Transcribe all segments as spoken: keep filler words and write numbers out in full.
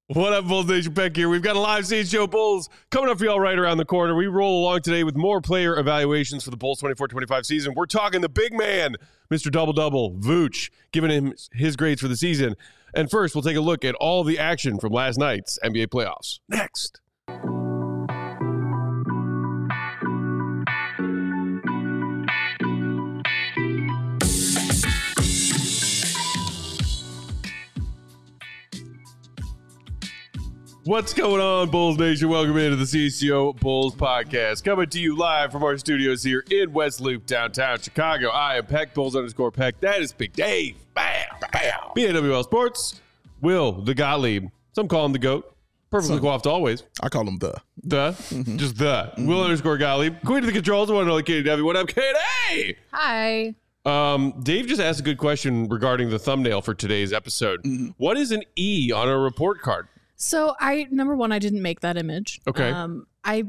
What up, Bulls Nation? Peck here. We've got a live stage show, Bulls, coming up for y'all right around the corner. We roll along today with more player evaluations for the Bulls twenty-four twenty-five season. We're talking the big man, Mister Double-Double, Vooch, giving him his grades for the season. And first, we'll take a look at all the action from last night's N B A playoffs. Next. What's going on, Bulls Nation? Welcome into the C C O Bulls podcast. Coming to you live from our studios here in West Loop, downtown Chicago. I am Peck, Bulls underscore Peck. That is Big Dave. Bam, bam. B A W L Sports. Will, the Gottlieb. Some call him the GOAT. Perfectly coiffed always. I call him the. The? Mm-hmm. Just the. Mm-hmm. Will underscore Gottlieb. Queen of the controls. I want to know Katie W. What up, Katie? Hi. Um, Dave just asked a good question regarding the thumbnail for today's episode. Mm-hmm. What is an E on a report card? So I, number one, I didn't make that image. Okay. Um, I,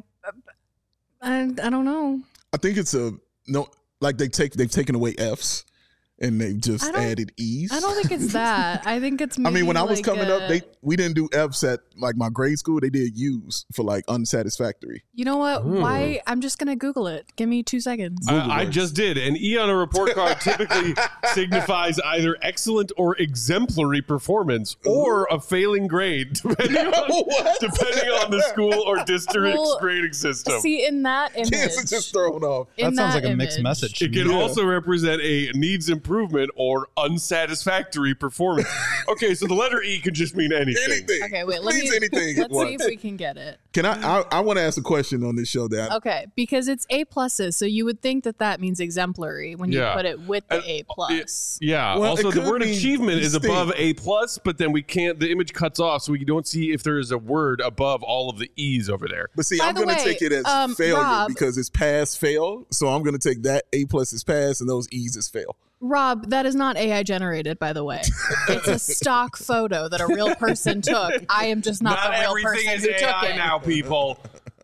I, I don't know. I think it's a no. Like they take they've taken away F's and they've just added E's. I don't think it's that. I think it's. I mean, when I was like coming a, up, they we didn't do F's at like my grade school. They did U's for like unsatisfactory. You know what? Ooh. Why? I'm just gonna Google it. Give me two seconds. I, I just did. An E on a report card typically signifies either excellent or exemplary performance or a failing grade, depending on, depending on the school or district's Well, grading system. See, in that image, Kids are just thrown off. in That sounds like a image, mixed message. It can Yeah. also represent a needs improvement or unsatisfactory performance. Okay, so the letter E could just mean anything. Anything. Okay, wait. Let Means me. anything. Let's What? see if we can get it. Can I? I, I want to ask a question on this show. That I, Okay, because it's A pluses, so you would think that that means exemplary when you Yeah. put it with the Uh, A plus. Yeah. Well, also, it the could word mean achievement is distinct. above A plus, but then we can't. The image cuts off, so we don't see if there is a word above all of the E's over there. but see, By I'm the going to way, take it as um, failure Rob- because it's pass fail. So I'm going to take that A plus is pass and those E's is fail. Rob, that is not A I generated, by the way. It's a stock photo that a real person took. I am just not, the real everything person is who A took I it. now, people.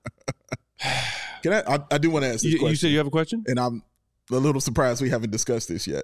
Can I? I, I do want to ask this You, question. you say you have a question? and I'm a little surprised we haven't discussed this yet.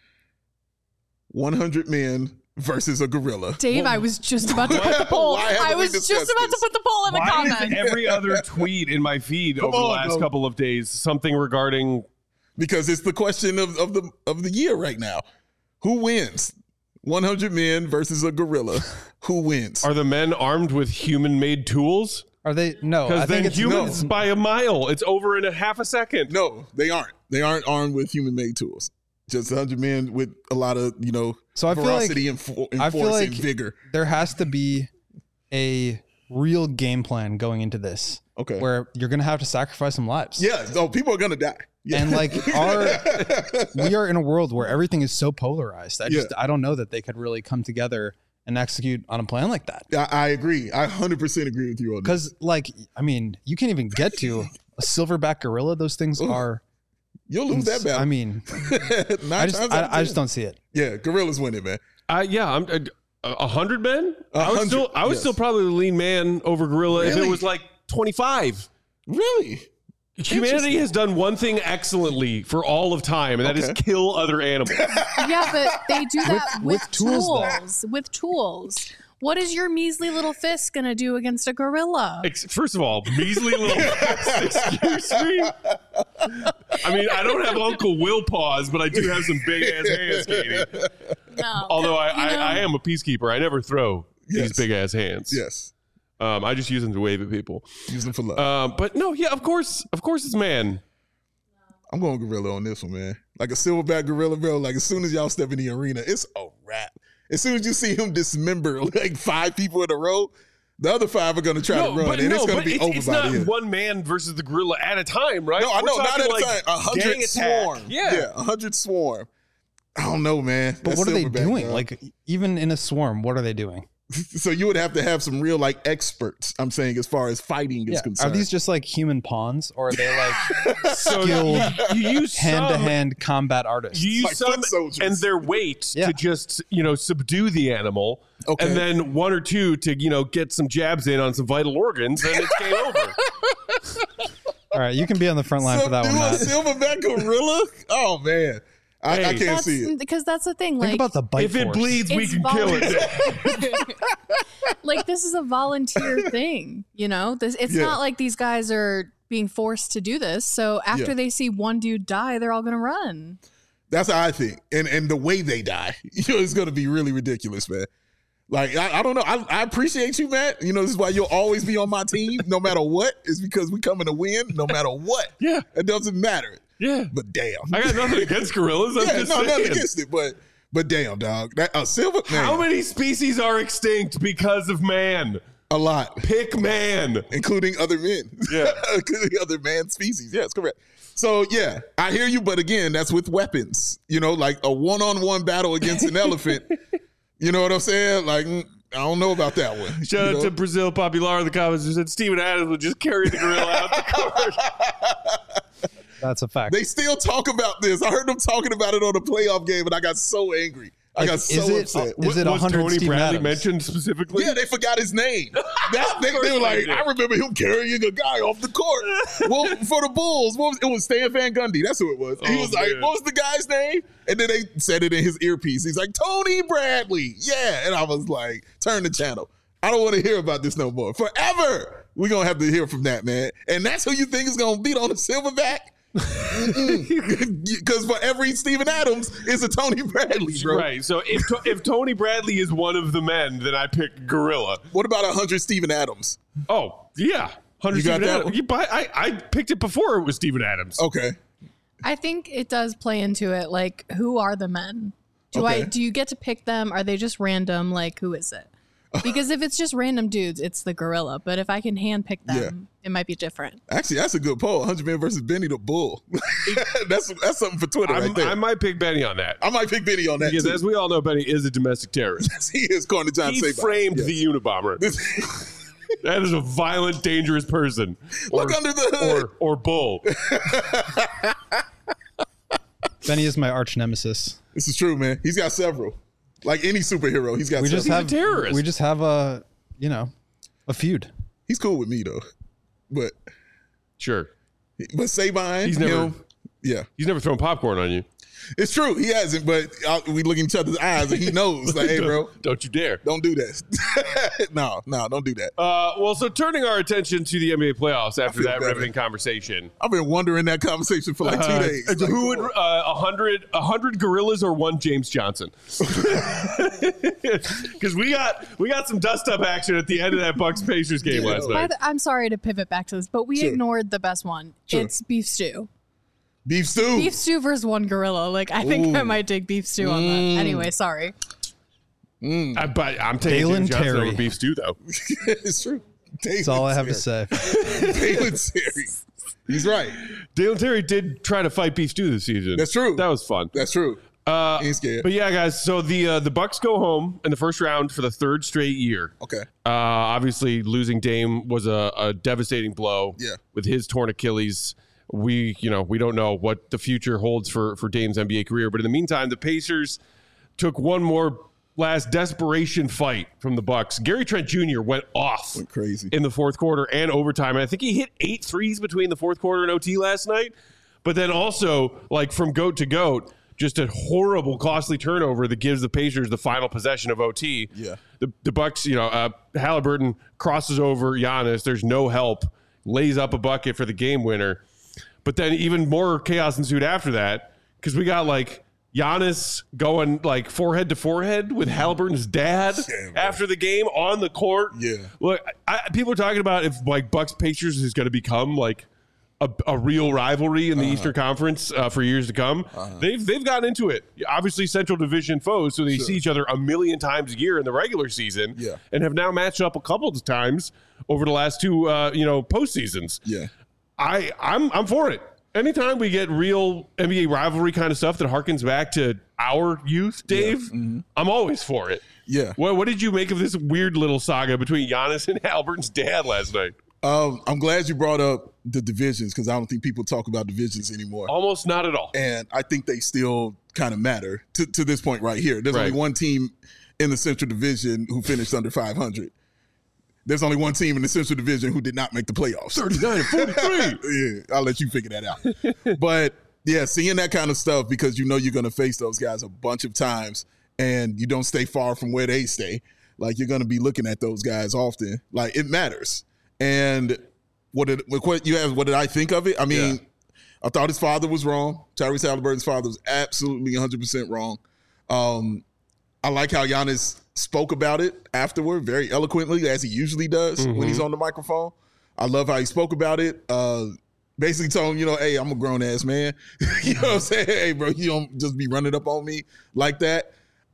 one hundred men versus a gorilla. Dave, I was just about to put the poll. Why haven't I we was just discussed about to this? put the poll in the Why comments. is every other tweet in my feed over the on, last bro. couple of days something regarding Because it's the question of, of the of the year right now. Who wins? one hundred men versus a gorilla. Who wins? are the men armed with human-made tools? Are they? No, I Because think then it's humans by a mile. It's over in a half a second. No, they aren't. They aren't armed with human-made tools. Just one hundred men with a lot of, you know, So I feel like- ferocity and, fo- and I force feel like and vigor. there has to be a real game plan going into this, Okay. where you're gonna have to sacrifice some lives. Yeah. Oh, people are gonna die. Yeah. And like our, we are in a world where everything is so polarized. I just, Yeah. I don't know that they could really come together and execute on a plan like that. I, I agree. I one hundred percent agree with you on that. Because like, I mean, you can't even get to a silverback gorilla. Those things Ooh, are. You'll lose that battle. I mean, Nine I just, times out of I, I just ten. don't see it. Yeah, gorillas winning, man. Uh, yeah, I'm uh, a hundred men. A I would hundred, still, I would yes. still probably lean man over gorilla if Really? it was like twenty-five. Really? Humanity Interesting. has done one thing excellently for all of time, and that is Okay. kill other animals. Yeah, but they do that with, with tools, though. tools. With tools. What is your measly little fist going to do against a gorilla? Ex- First of all, measly little excuse me. I mean, I don't have Uncle Will paws, but I do have some big ass hands, Katie. No. Although I, You know- I, I am a peacekeeper, I never throw Yes. these big ass hands. Yes. Um, I just use them to wave at people. Use them for love. Um, but no, yeah, of course, of course, it's man. I'm going gorilla on this one, man. Like a silverback gorilla, bro. Like as soon as y'all step in the arena, it's a wrap. As soon as you see him dismember like five people in a row, the other five are going to try No, to run, but and no, it's going but to be it's, over it's by not the end. one man versus the gorilla at a time, right? No, I We're know, not talking at a like time. A gang hundred attack. swarm. Yeah. yeah, a hundred swarm. I don't know, man. But That's what are they silverback, doing? bro. Like even in a swarm, what are they doing? so you would have to have some real like experts. I'm saying as far as fighting is Yeah. concerned. Are these just like human pawns, or are they like So skilled you, you use some, hand-to-hand combat artists? you use Like some foot soldiers. and their weight Yeah. to just you know subdue the animal, Okay. and then one or two to you know get some jabs in on some vital organs, and it's game over. All right, you can be on the front line for that one. Subdue a Matt. silverback gorilla? Oh man, I, I Hey. can't That's, see it. because that's the thing. Like, Think about the bite If it force. bleeds, we it's can kill it. voluntary. Like, this is a volunteer thing, you know? This It's Yeah. not like these guys are being forced to do this. So after Yeah. they see one dude die, they're all going to run. That's how I think. And and the way they die, you know, it's going to be really ridiculous, man. Like, I, I don't know. I, I appreciate you, Matt. You know, this is why you'll always be on my team no matter what. It's because we coming to win no matter what. Yeah. It doesn't matter. Yeah. But damn. I got nothing against gorillas. I'm yeah, just no, saying. nothing against it. But but damn, dog. That a silver man. How many species are extinct because of man? A lot. Pick man. Including other men. Yeah. Including other man species. Yes, correct. So, yeah, I hear you. But again, that's with weapons. You know, like a one-on-one battle against an elephant. You know what I'm saying? Like, mm, I don't know about that one. Shout you out know? to Brazil Popular in the comments who said Steven Adams would just carry the gorilla out the court. That's a fact. They still talk about this. I heard them talking about it on a playoff game, and I got so angry. I Like, got is so it- upset. is it was one hundred Tony Steven Bradley Adams? mentioned specifically? Yeah, they forgot his name. That, they, course they were they like, did. I remember him carrying a guy off the court. Well, for the Bulls, what was, it was Stan Van Gundy. That's who it was. He Oh, was like, man. what was the guy's name? And then they said it in his earpiece. He's like, Tony Bradley. Yeah. And I was like, turn the channel. I don't want to hear about this no more. Forever. We're going to have to hear from that, man. And that's who you think is going to beat on the silverback? Because for every Steven Adams, it's a Tony Bradley, bro. Right. So if if Tony Bradley is one of the men, then I pick gorilla. What about a hundred Steven Adams? Oh yeah, hundred You got Steven that Adams. one? You buy, I I picked it before it was Steven Adams. Okay. I think it does play into it. Like, who are the men? Do I Okay. do you get to pick them? Are they just random? Like, who is it? Because if it's just random dudes, it's the gorilla. But if I can handpick them, Yeah. it might be different. Actually, that's a good poll. one hundred men versus Benny the Bull. that's that's something for Twitter I'm- right there. I might pick Benny on that I might pick Benny on that because, too. as we all know, Benny is a domestic terrorist. he is according to John He Sabine. framed Yes. the Unabomber. That is a violent, dangerous person. Look under the hood. or or bull. Benny is my arch nemesis. This is true, man. He's got several. Like any superhero, he's got We several. just have terrorist. we just have a you know a feud. he's cool with me though. But Sure, but Sabine, He's never- him, yeah. he's never thrown popcorn on you. It's true. He hasn't, but uh, we look in each other's eyes and he knows, like, hey, bro, Don't you dare. don't do that. no, no, don't do that. Uh, well, so turning our attention to the N B A playoffs after feel that better. riveting conversation. I've been wondering that conversation for like two Uh, days. Like, who would come on. uh, a hundred a hundred gorillas or one James Johnson? Because we got we got some dust up action at the end of that Bucks Pacers game Yeah. last By night. the, I'm sorry to pivot back to this, but we Sure. ignored the best one. Sure. It's beef stew. Beef stew? Beef stew versus one gorilla. Like, I think I might take beef stew on that. Anyway, sorry. I, but I'm taking Dalen James Johnson Terry. over beef stew though. it's true. That's all I have to say. Dalen Terry. He's right. Dalen Terry did try to fight beef stew this season. That's true. That was fun. That's true. Uh, Ain't scared. But yeah, guys. So the uh, the Bucks go home in the first round for the third straight year. Okay. Uh, obviously, losing Dame was a, a devastating blow. Yeah. With his torn Achilles, we you know we don't know what the future holds for for Dame's N B A career. But in the meantime, the Pacers took one more last desperation fight from the Bucks. Gary Trent Junior went off Went crazy. in the fourth quarter and overtime. And I think he hit eight threes between the fourth quarter and O T last night. But then also, like from goat to goat, just a horrible, costly turnover that gives the Pacers the final possession of O T. Yeah. The the Bucks, you know, uh, Halliburton crosses over Giannis. There's no help. Lays up a bucket for the game winner. But then even more chaos ensued after that because we got like Giannis going like forehead to forehead with Halliburton's dad Yeah, man. after the game on the court. Yeah. Look, I, people are talking about if like Bucks Pacers is going to become like a, a real rivalry in the Uh-huh. Eastern Conference uh, for years to come. They've they've gotten into it. Obviously, Central Division foes, so they Sure. see each other a million times a year in the regular season. Yeah. and have now matched up a couple of times over the last two uh, you know postseasons. Yeah. I I'm I'm for it. Anytime we get real N B A rivalry kind of stuff that harkens back to our youth, Dave, Mm-hmm. I'm always for it. Yeah. What what did you make of this weird little saga between Giannis and Halliburton's dad last night? Um, I'm glad you brought up the divisions because I don't think people talk about divisions anymore. Almost not at all. And I think they still kind of matter to, to this point right here. There's Right. only one team in the Central Division who finished under five hundred. There's only one team in the Central Division who did not make the playoffs. thirty-nine and forty-three. Yeah, I'll let you figure that out. But yeah, seeing that kind of stuff because you know you're going to face those guys a bunch of times and you don't stay far from where they stay. Like you're going to be looking at those guys often. Like it matters. And what did what you have? What did I think of it? I mean, yeah. I thought his father was wrong. Tyrese Halliburton's father was absolutely one hundred percent wrong. Um, I like how Giannis spoke about it afterward very eloquently, as he usually does mm-hmm. when he's on the microphone. I love how he spoke about it. Uh, basically told him, you know, hey, I'm a grown-ass man. You know what I'm saying? Hey, bro, you don't just be running up on me like that.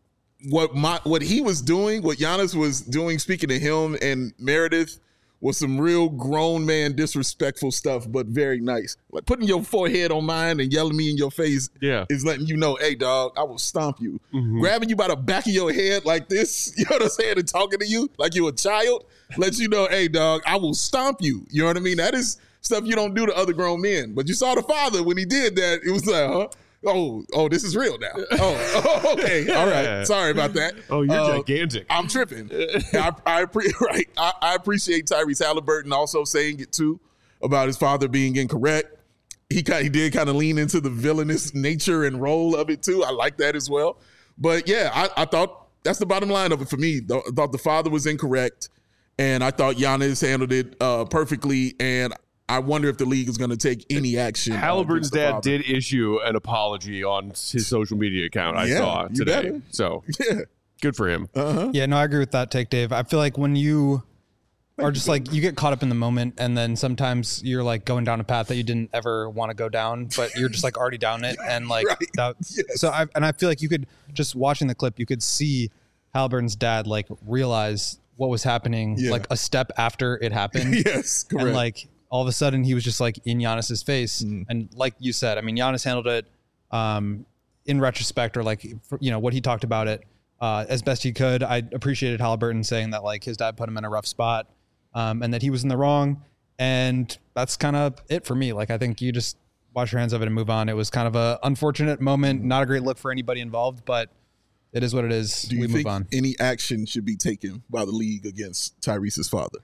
What my what he was doing, what Giannis was doing, speaking to him and Meredith, was some real grown man disrespectful stuff, but very nice. Like putting your forehead on mine and yelling me in your face yeah. is letting you know, hey, dog, I will stomp you. Mm-hmm. Grabbing you by the back of your head like this, you know what I'm saying, and talking to you like you're a child, lets you know, hey, dog, I will stomp you. You know what I mean? That is stuff you don't do to other grown men. But you saw the father when he did that, it was like, huh? Oh, oh, this is real now. Oh, oh okay. All right. Sorry about that. Oh, you're uh, gigantic. I'm tripping. I, I, right. I, I appreciate Tyrese Halliburton also saying it, too, about his father being incorrect. He, he did kind of lean into the villainous nature and role of it, too. I like that as well. But, yeah, I, I thought that's the bottom line of it for me. I thought the father was incorrect, and I thought Giannis handled it uh, perfectly, and I wonder if the league is going to take any action. Halliburton's dad did issue an apology on his social media account. I yeah, saw today. Better. So yeah. Good for him. Uh-huh. Yeah, no, I agree with that take, Dave. I feel like when you are just like, you get caught up in the moment, and then sometimes you're like going down a path that you didn't ever want to go down, but you're just like already down it. And like, right. that, yes. so I, and I feel like you could just watching the clip, you could see Halliburton's dad like realize what was happening yeah. like a step after it happened. Yes, correct. And like, all of a sudden he was just like in Giannis's face. Mm. And like you said, I mean, Giannis handled it um, in retrospect, or like, for, you know, what he talked about it uh, as best he could. I appreciated Halliburton saying that like his dad put him in a rough spot um, and that he was in the wrong. And that's kind of it for me. Like, I think you just wash your hands of it and move on. It was kind of a unfortunate moment, not a great look for anybody involved, but it is what it is. Do you we think move on. Any action should be taken by the league against Tyrese's father?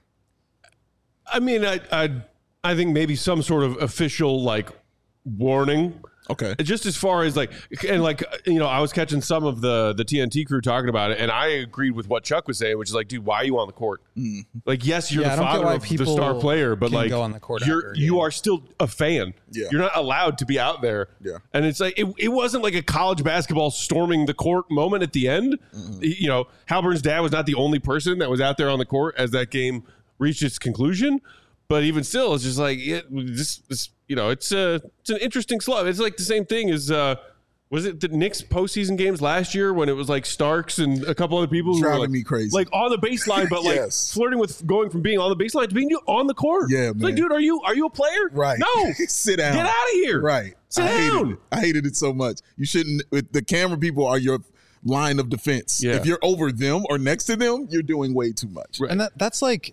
I mean, I, I, I think maybe some sort of official like warning. Okay. Just as far as like, and like, you know, I was catching some of the the T N T crew talking about it, and I agreed with what Chuck was saying, which is like, dude, why are you on the court? Mm. Like, yes, you're Yeah, I the don't get father why of the people star player, but can like, go on the court you're after a you game. are still a fan. Yeah. You're not allowed to be out there. Yeah. And it's like, it, it wasn't like a college basketball storming the court moment at the end. Mm-hmm. You know, Halliburton's dad was not the only person that was out there on the court as that game reached its conclusion. But even still, it's just like, it, this, this, you know, it's a, it's an interesting slug. It's like the same thing as, uh, was it the Knicks postseason games last year when it was like Starks and a couple other people who Driving were like, me crazy. like on the baseline, but like Yes. flirting with going from being on the baseline to being on the court. Yeah, It's man. like, dude, are you are you a player? Right. No. Sit down. Get out of here. Right. Sit I hated down. it. I hated it so much. You shouldn't. The camera people are your line of defense. Yeah. If you're over them or next to them, you're doing way too much. Right. And that that's like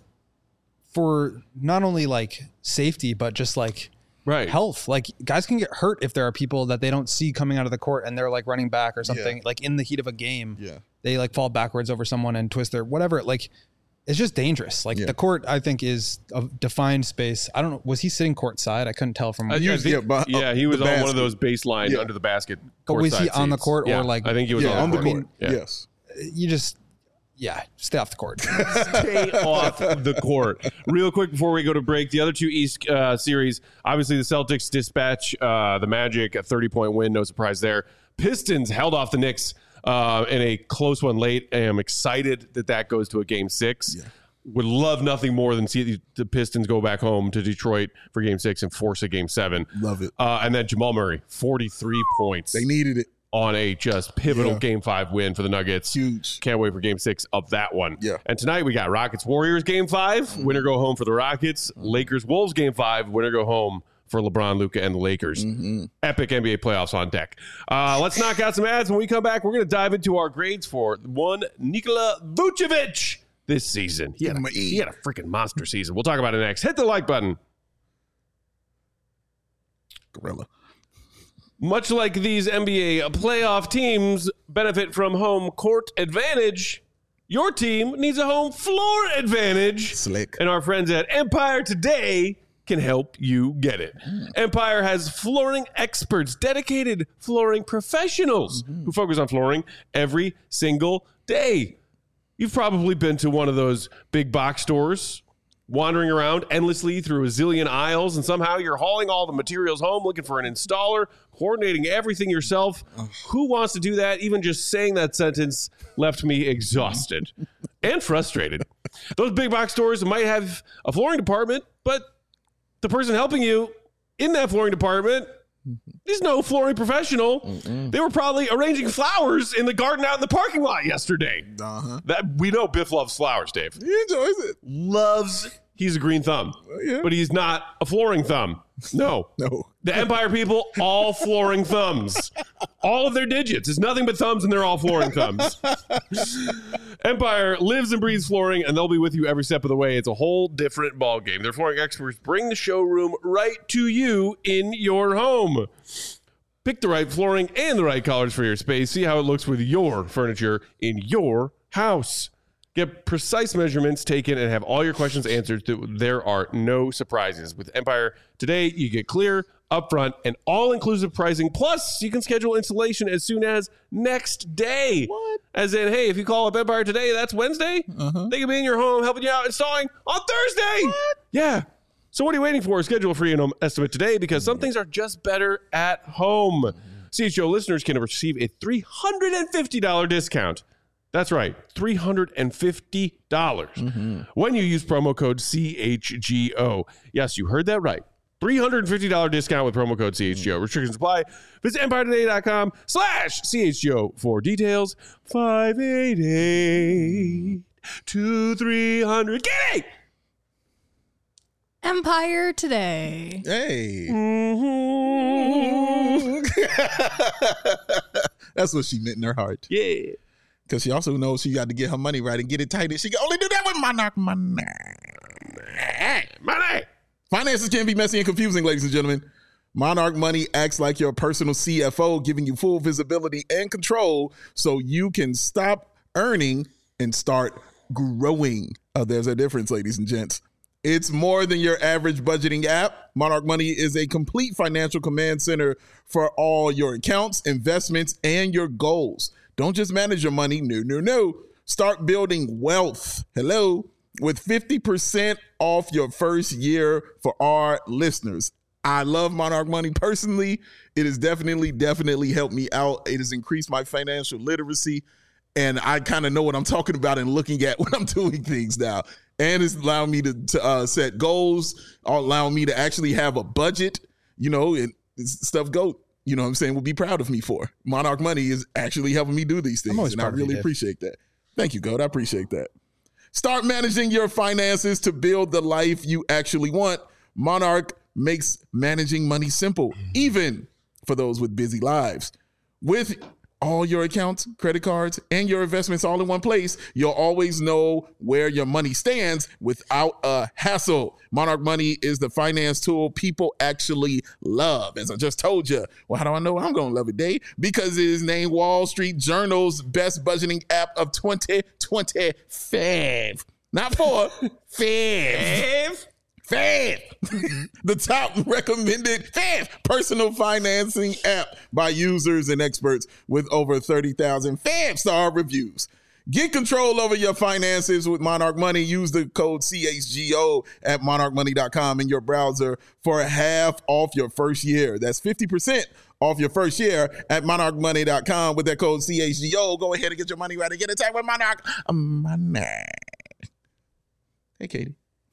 for not only like safety, but just like Right. health. Like guys can get hurt if there are people that they don't see coming out of the court and they're like running back or something. Yeah. Like in the heat of a game, Yeah. they like fall backwards over someone and twist their whatever. Like it's just dangerous. Like Yeah. the court, I think, is a defined space. I don't know. Was he sitting courtside? I couldn't tell from. I, I He was- think- yeah, but- yeah, he the was on one basket. of those baseline Yeah. under the basket. But was he courtside on the seats. court or, Yeah, like- I think he was Yeah, on the court. court. Yeah. Yes. you just, yeah, stay off the court. Stay off the court. Real quick before we go to break, the other two East uh, series, obviously the Celtics dispatch uh, the Magic, a thirty-point win, no surprise there. Pistons held off the Knicks uh, in a close one late. I am excited that that goes to a game six. Yeah. Would love nothing more than see the Pistons go back home to Detroit for game six and force a game seven. Love it. Uh, and then Jamal Murray, forty-three points They needed it. on a just pivotal Yeah. game five win for the Nuggets. Huge. Can't wait for game six of that one. Yeah. And tonight we got Rockets Warriors game five. Mm-hmm. Winner go home for the Rockets. Lakers Wolves game five. Winner go home for LeBron, Luka, and the Lakers. Mm-hmm. Epic N B A playoffs on deck. Uh, let's knock out some ads. When we come back, we're going to dive into our grades for one Nikola Vucevic this season. He had, a, he had a freaking monster season. We'll talk about it next. Hit the like button. Gorilla. Much like these N B A playoff teams benefit from home court advantage, your team needs a home floor advantage. Slick. And our friends at Empire Today can help you get it. Empire has flooring experts, dedicated flooring professionals who focus on flooring every single day. You've probably been to one of those big box stores, wandering around endlessly through a zillion aisles, and somehow you're hauling all the materials home, looking for an installer, coordinating everything yourself. Who wants to do that? Even just saying that sentence left me exhausted and frustrated. Those big box stores might have a flooring department, but the person helping you in that flooring department is no flooring professional. Mm-mm. They were probably arranging flowers in the garden out in the parking lot yesterday. Uh-huh. That we know Biff loves flowers, Dave. He enjoys it. Loves. He's a green thumb, uh, yeah. but he's not a flooring thumb. No. No. The Empire people, all flooring thumbs. All of their digits. It's nothing but thumbs, and they're all flooring thumbs. Empire lives and breathes flooring, and they'll be with you every step of the way. It's a whole different ballgame. Their flooring experts bring the showroom right to you in your home. Pick the right flooring and the right colors for your space. See how it looks with your furniture in your house. Get precise measurements taken and have all your questions answered. There are no surprises. With Empire today, you get clear, upfront, and all-inclusive pricing. Plus, you can schedule installation as soon as next day. What? As in, hey, if you call up Empire today, that's Wednesday. Uh-huh. They can be in your home helping you out installing on Thursday. What? Yeah. So what are you waiting for? Schedule a free estimate today because some things are just better at home. C H O listeners can receive a three hundred fifty dollars discount. That's right, three hundred fifty dollars mm-hmm. when you use promo code C H G O. Yes, you heard that right. three hundred fifty dollars discount with promo code C H G O. Restrictions apply. Visit empire today dot com slash C H G O for details. five eight eight, two three hundred. Get it! Empire Today. Hey. Mm-hmm. That's what she meant in her heart. Yeah. Because she also knows she got to get her money right and get it tight. And she can only do that with Monarch money. Money. Finances can be messy and confusing, ladies and gentlemen. Monarch Money acts like your personal C F O, giving you full visibility and control so you can stop earning and start growing. Oh, there's a difference, ladies and gents. It's more than your average budgeting app. Monarch Money is a complete financial command center for all your accounts, investments, and your goals. Don't just manage your money. No, no, no. Start building wealth. Hello. With fifty percent off your first year for our listeners. I love Monarch Money personally. It has definitely, definitely helped me out. It has increased my financial literacy. And I kind of know what I'm talking about and looking at when I'm doing things now. And it's allowing me to, to uh, set goals, allowing me to actually have a budget, you know, and stuff go. You know what I'm saying, will be proud of me for. Monarch Money is actually helping me do these things, and I really you, appreciate that. Thank you, Goat. I appreciate that. Start managing your finances to build the life you actually want. Monarch makes managing money simple, even for those with busy lives. With all your accounts, credit cards, and your investments all in one place, you'll always know where your money stands without a hassle. Monarch Money is the finance tool people actually love. As I just told you, well, how do I know I'm going to love it, Dave? Because it is named Wall Street Journal's best budgeting app of twenty twenty-five. Not four, five. Fave, the top recommended Fave personal financing app by users and experts with over thirty thousand five-star reviews. Get control over your finances with Monarch Money. Use the code C H G O at monarch money dot com in your browser for half off your first year. That's fifty percent off your first year at monarch money dot com with that code C H G O. Go ahead and get your money right and get it tight with Monarch Money. Hey, Katie.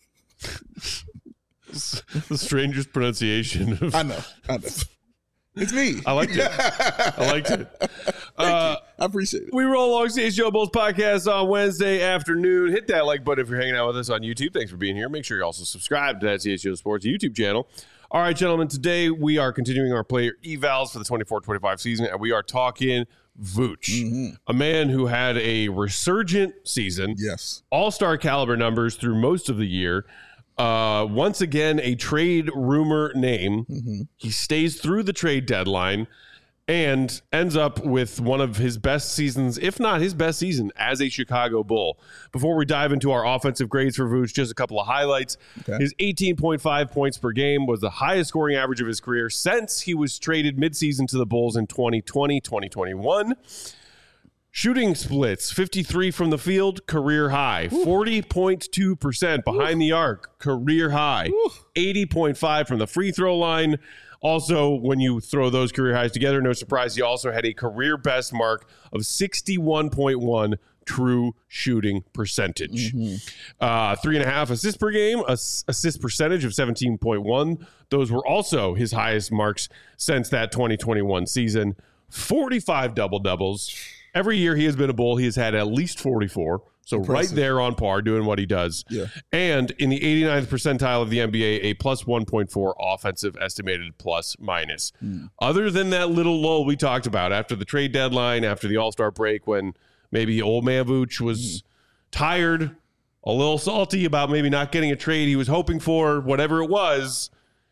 The strangest pronunciation of- I know, I know. It's me. I liked it. I liked it. Uh, I appreciate it. We roll along C H G O Bulls podcast on Wednesday afternoon. Hit that like button if you're hanging out with us on YouTube. Thanks for being here. Make sure you also subscribe to that C H G O Sports YouTube channel. All right, gentlemen, today we are continuing our player evals for the twenty-four twenty-five season, and we are talking Vooch, mm-hmm. a man who had a resurgent season. Yes. All-star caliber numbers through most of the year. Uh, once again, a trade rumor name. Mm-hmm. He stays through the trade deadline and ends up with one of his best seasons, if not his best season, as a Chicago Bull. Before we dive into our offensive grades for Vooch, just a couple of highlights. Okay. His eighteen point five points per game was the highest scoring average of his career since he was traded midseason to the Bulls in twenty twenty, twenty twenty-one. Shooting splits, fifty-three from the field, career high. forty point two percent behind the arc, career high. eighty point five from the free throw line. Also, when you throw those career highs together, no surprise, he also had a career best mark of sixty-one point one true shooting percentage. Mm-hmm. Uh, three and a half assists per game, ass- assist percentage of seventeen point one. Those were also his highest marks since that twenty twenty-one season. forty-five double-doubles. Every year he has been a Bull, he has had at least forty-four. So Impressive. Right there on par doing what he does. Yeah. And in the eighty-ninth percentile of the N B A, a plus one point four offensive estimated plus minus. Mm. Other than that little lull we talked about after the trade deadline, after the All-Star break, when maybe old man Vooch was mm. tired, a little salty about maybe not getting a trade he was hoping for, whatever it was,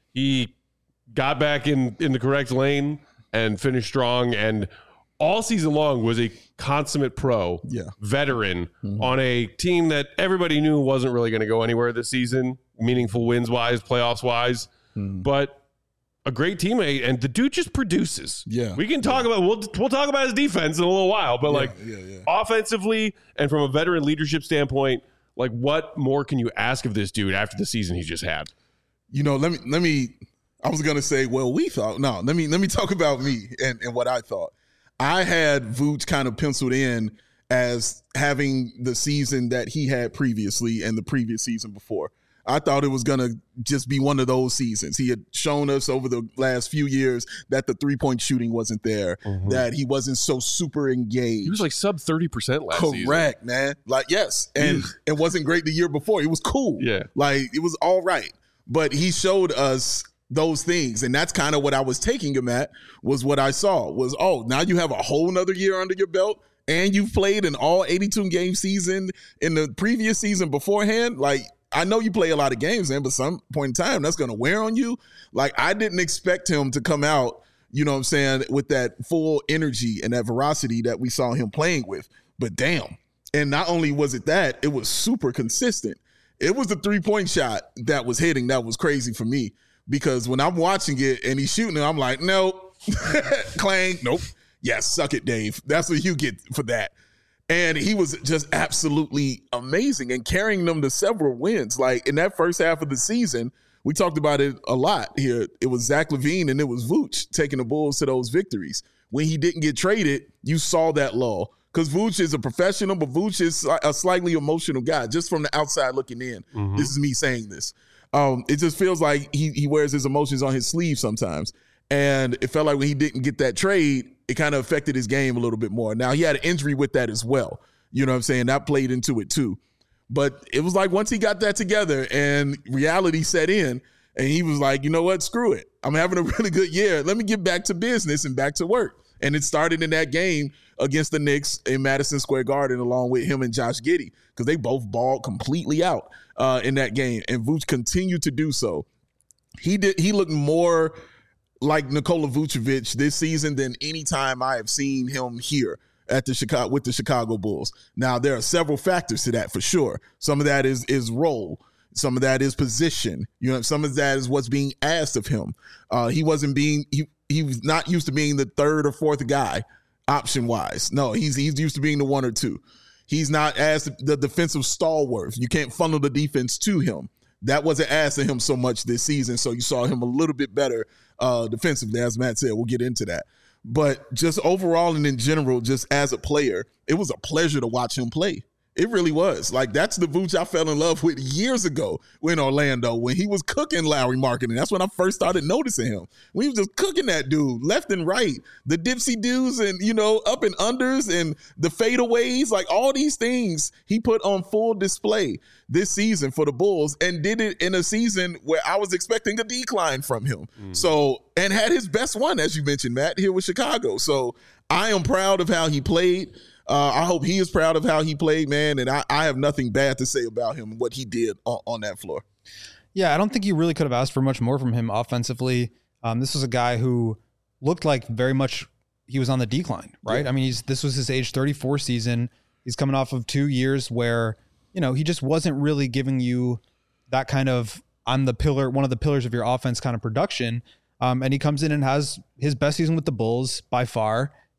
he got back in, in the correct lane and finished strong, and all season long was a consummate pro, yeah. veteran mm-hmm. on a team that everybody knew wasn't really going to go anywhere this season, meaningful wins wise, playoffs wise, mm-hmm. but a great teammate, and the dude just produces. Yeah, we can talk yeah. about we'll we'll talk about his defense in a little while, but yeah, like yeah, yeah. offensively and from a veteran leadership standpoint, like what more can you ask of this dude after the season he just had? You know, let me let me. I was gonna say, well, we thought no. Let me let me talk about me and, and what I thought. I had Vooch kind of penciled in as having the season that he had previously and the previous season before. I thought it was going to just be one of those seasons. He had shown us over the last few years that the three-point shooting wasn't there, mm-hmm. that he wasn't so super engaged. He was like sub thirty percent last Correct, season. Correct, man. Like, yes. And it wasn't great the year before. It was cool. Yeah. Like, it was all right. But he showed us those things, and that's kind of what I was taking him at, was what I saw was, oh, now you have a whole nother year under your belt and you've played an all eighty-two game season in the previous season beforehand. Like, I know you play a lot of games, man, but some point in time that's going to wear on you. Like, I didn't expect him to come out, you know what I'm saying, with that full energy and that veracity that we saw him playing with. But damn. And not only was it that, it was super consistent. It was the three-point shot that was hitting that was crazy for me. Because when I'm watching it and he's shooting it, I'm like, nope. Clang, nope. Yes, suck it, Dave. That's what you get for that. And he was just absolutely amazing and carrying them to several wins. Like in that first half of the season, we talked about it a lot here. It was Zach LaVine and it was Vooch taking the Bulls to those victories. When he didn't get traded, you saw that lull. Because Vooch is a professional, but Vooch is a slightly emotional guy, just from the outside looking in. Mm-hmm. This is me saying this. Um, it just feels like he he wears his emotions on his sleeve sometimes. And it felt like when he didn't get that trade, it kind of affected his game a little bit more. Now, he had an injury with that as well. You know what I'm saying? That played into it too. But it was like once he got that together and reality set in, and he was like, you know what? Screw it. I'm having a really good year. Let me get back to business and back to work. And it started in that game against the Knicks in Madison Square Garden along with him and Josh Giddey, because they both balled completely out uh, in that game. And Vooch continued to do so. He did. He looked more like Nikola Vucevic this season than any time I have seen him here at the Chicago with the Chicago Bulls. Now, there are several factors to that for sure. Some of that is is role. Some of that is position. You know, some of that is what's being asked of him. Uh, he wasn't being he he was not used to being the third or fourth guy option wise. No, he's he's used to being the one or two. He's not as the defensive stalwart. You can't funnel the defense to him. That wasn't asked of him so much this season. So you saw him a little bit better uh, defensively, as Matt said. We'll get into that. But just overall and in general, just as a player, it was a pleasure to watch him play. It really was. Like, that's the Vooch I fell in love with years ago in Orlando when he was cooking Lowry Marketing. That's when I first started noticing him. When he was just cooking that dude left and right. The dipsy dudes and, you know, up and unders and the fadeaways, like all these things he put on full display this season for the Bulls, and did it in a season where I was expecting a decline from him. Mm. So, and had his best one, as you mentioned, Matt, here with Chicago. So I am proud of how he played. Uh, I hope he is proud of how he played, man, and I, I have nothing bad to say about him and what he did on, on that floor. Yeah, I don't think you really could have asked for much more from him offensively. Um, this was a guy who looked like very much he was on the decline, right? Yeah. I mean, he's this was his age thirty-four season. He's coming off of two years where, you know, he just wasn't really giving you that kind of on the pillar, one of the pillars of your offense kind of production. Um, and he comes in and has his best season with the Bulls by far.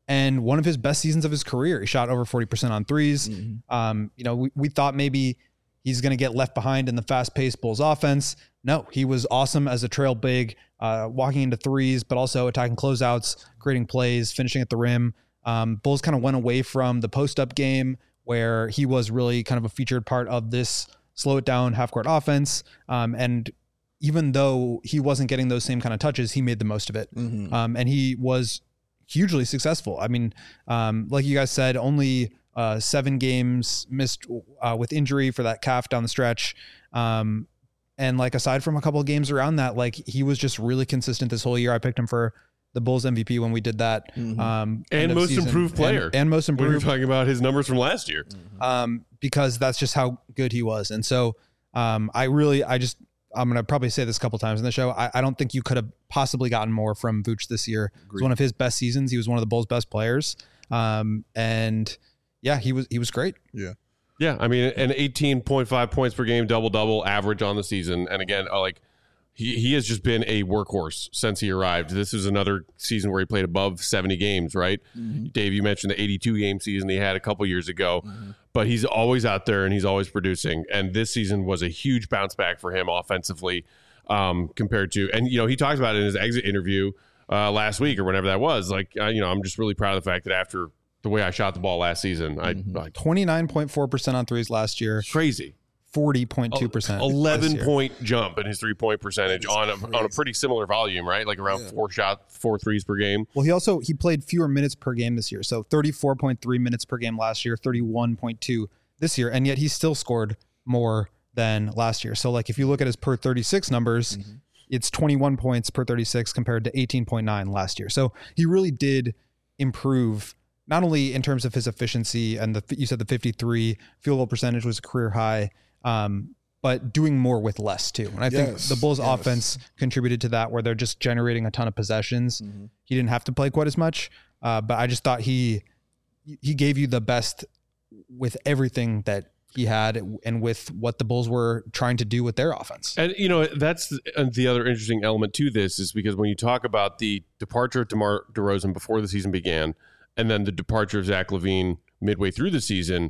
and one of his best seasons of his career. He shot over forty percent on threes. Mm-hmm. Um, you know, we, we thought maybe he's going to get left behind in the fast-paced Bulls offense. No, he was awesome as a trail big, uh, walking into threes, but also attacking closeouts, creating plays, finishing at the rim. Um, Bulls kind of went away from the post-up game where he was really kind of a featured part of this slow it down half-court offense. Um, and even though he wasn't getting those same kind of touches, he made the most of it. Mm-hmm. Um, and he was hugely successful. I mean, um, like you guys said, only uh, seven games missed uh, with injury for that calf down the stretch. Um, and like, aside from a couple of games around that, like he was just really consistent this whole year. I picked him for the Bulls M V P when we did that. Mm-hmm. Um, and most season. improved player. And, and most improved. We were talking about his numbers from last year. Mm-hmm. Um, because that's just how good he was. And so um, I really, I just, I'm going to probably say this a couple times in the show. I, I don't think you could have possibly gotten more from Vooch this year. Agreed. It was one of his best seasons. He was one of the Bulls' best players. Um, and yeah, he was, he was great. Yeah. Yeah. I mean, an eighteen point five points per game, double double average on the season. And again, like he, he has just been a workhorse since he arrived. This is another season where he played above seventy games, right? Mm-hmm. Dave, you mentioned the eighty-two game season he had a couple years ago. Mm-hmm. But he's always out there and he's always producing. And this season was a huge bounce back for him offensively um, compared to, and, you know, he talked about it in his exit interview uh, last week or whenever that was. Like, uh, you know, I'm just really proud of the fact that after the way I shot the ball last season, mm-hmm. I like twenty-nine point four percent on threes last year. Crazy. forty point two percent. eleven point jump in his three point percentage on a, on a pretty similar volume, right? Like around yeah. four shot, four threes per game. Well, he also, he played fewer minutes per game this year. So thirty-four point three minutes per game last year, thirty-one point two this year. And yet he still scored more than last year. So like if you look at his per thirty-six numbers, mm-hmm. it's twenty-one points per thirty-six compared to eighteen point nine last year. So he really did improve, not only in terms of his efficiency and the, you said the fifty-three field goal percentage was a career high, um, but doing more with less too. And I yes, think the Bulls yes. offense contributed to that, where they're just generating a ton of possessions. Mm-hmm. He didn't have to play quite as much, uh, but I just thought he, he gave you the best with everything that he had and with what the Bulls were trying to do with their offense. And, you know, that's the, the other interesting element to this is because when you talk about the departure of DeMar DeRozan before the season began, and then the departure of Zach LaVine midway through the season,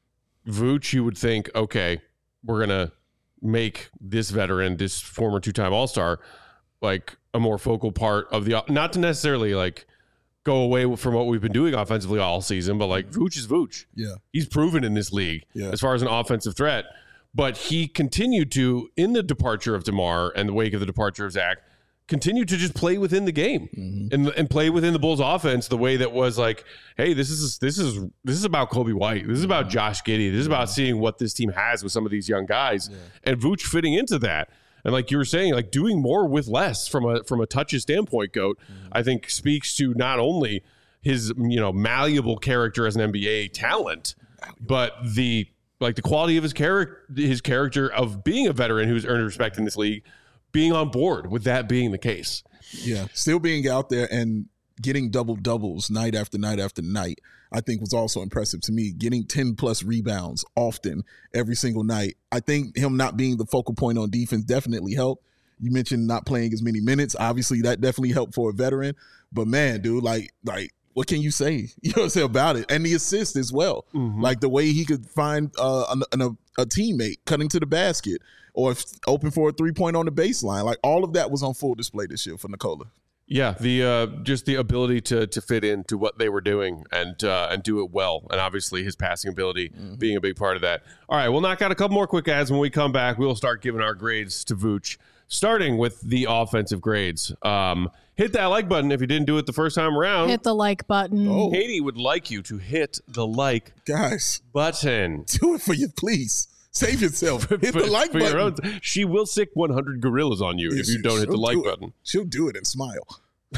Vooch, you would think, okay, we're going to make this veteran, this former two-time All-Star, like a more focal part of the, not to necessarily like go away from what we've been doing offensively all season, but like Vooch is Vooch. Yeah. He's proven in this league yeah. as far as an offensive threat, but he continued to, in the departure of DeMar and the wake of the departure of Zach, continue to just play within the game mm-hmm. and and play within the Bulls offense the way that was like, hey, this is this is this is about Kobe White. This is about Josh Giddey. This is about seeing what this team has with some of these young guys yeah. and Vooch fitting into that. And like you were saying, like doing more with less from a from a touches standpoint, Goat, mm-hmm. I think speaks to not only his, you know, malleable character as an N B A talent, but the like the quality of his character his character of being a veteran who's earned respect in this league, being on board with that being the case. Yeah. Still being out there and getting double doubles night after night after night, I think was also impressive to me. Getting ten plus rebounds often every single night. I think him not being the focal point on defense definitely helped. You mentioned not playing as many minutes. Obviously that definitely helped for a veteran, but man, dude, like, like, what can you say? You know what I'm saying about it? And the assist as well. Mm-hmm. Like the way he could find uh, an, a, a teammate cutting to the basket or if open for a three-point on the baseline. Like all of that was on full display this year for Nikola. Yeah, the uh, just the ability to to fit into what they were doing and uh, and do it well. And obviously his passing ability mm-hmm. being a big part of that. All right, we'll knock out a couple more quick ads. When we come back, we'll start giving our grades to Vooch, starting with the offensive grades. Um, hit that like button if you didn't do it the first time around. Hit the like button. Oh. Katie would like you to hit the like Guys, button. Do it for you, please. Save yourself. Hit the like for button. Own, she will sick one hundred gorillas on you yeah, if you don't hit the like button. She'll do it and smile.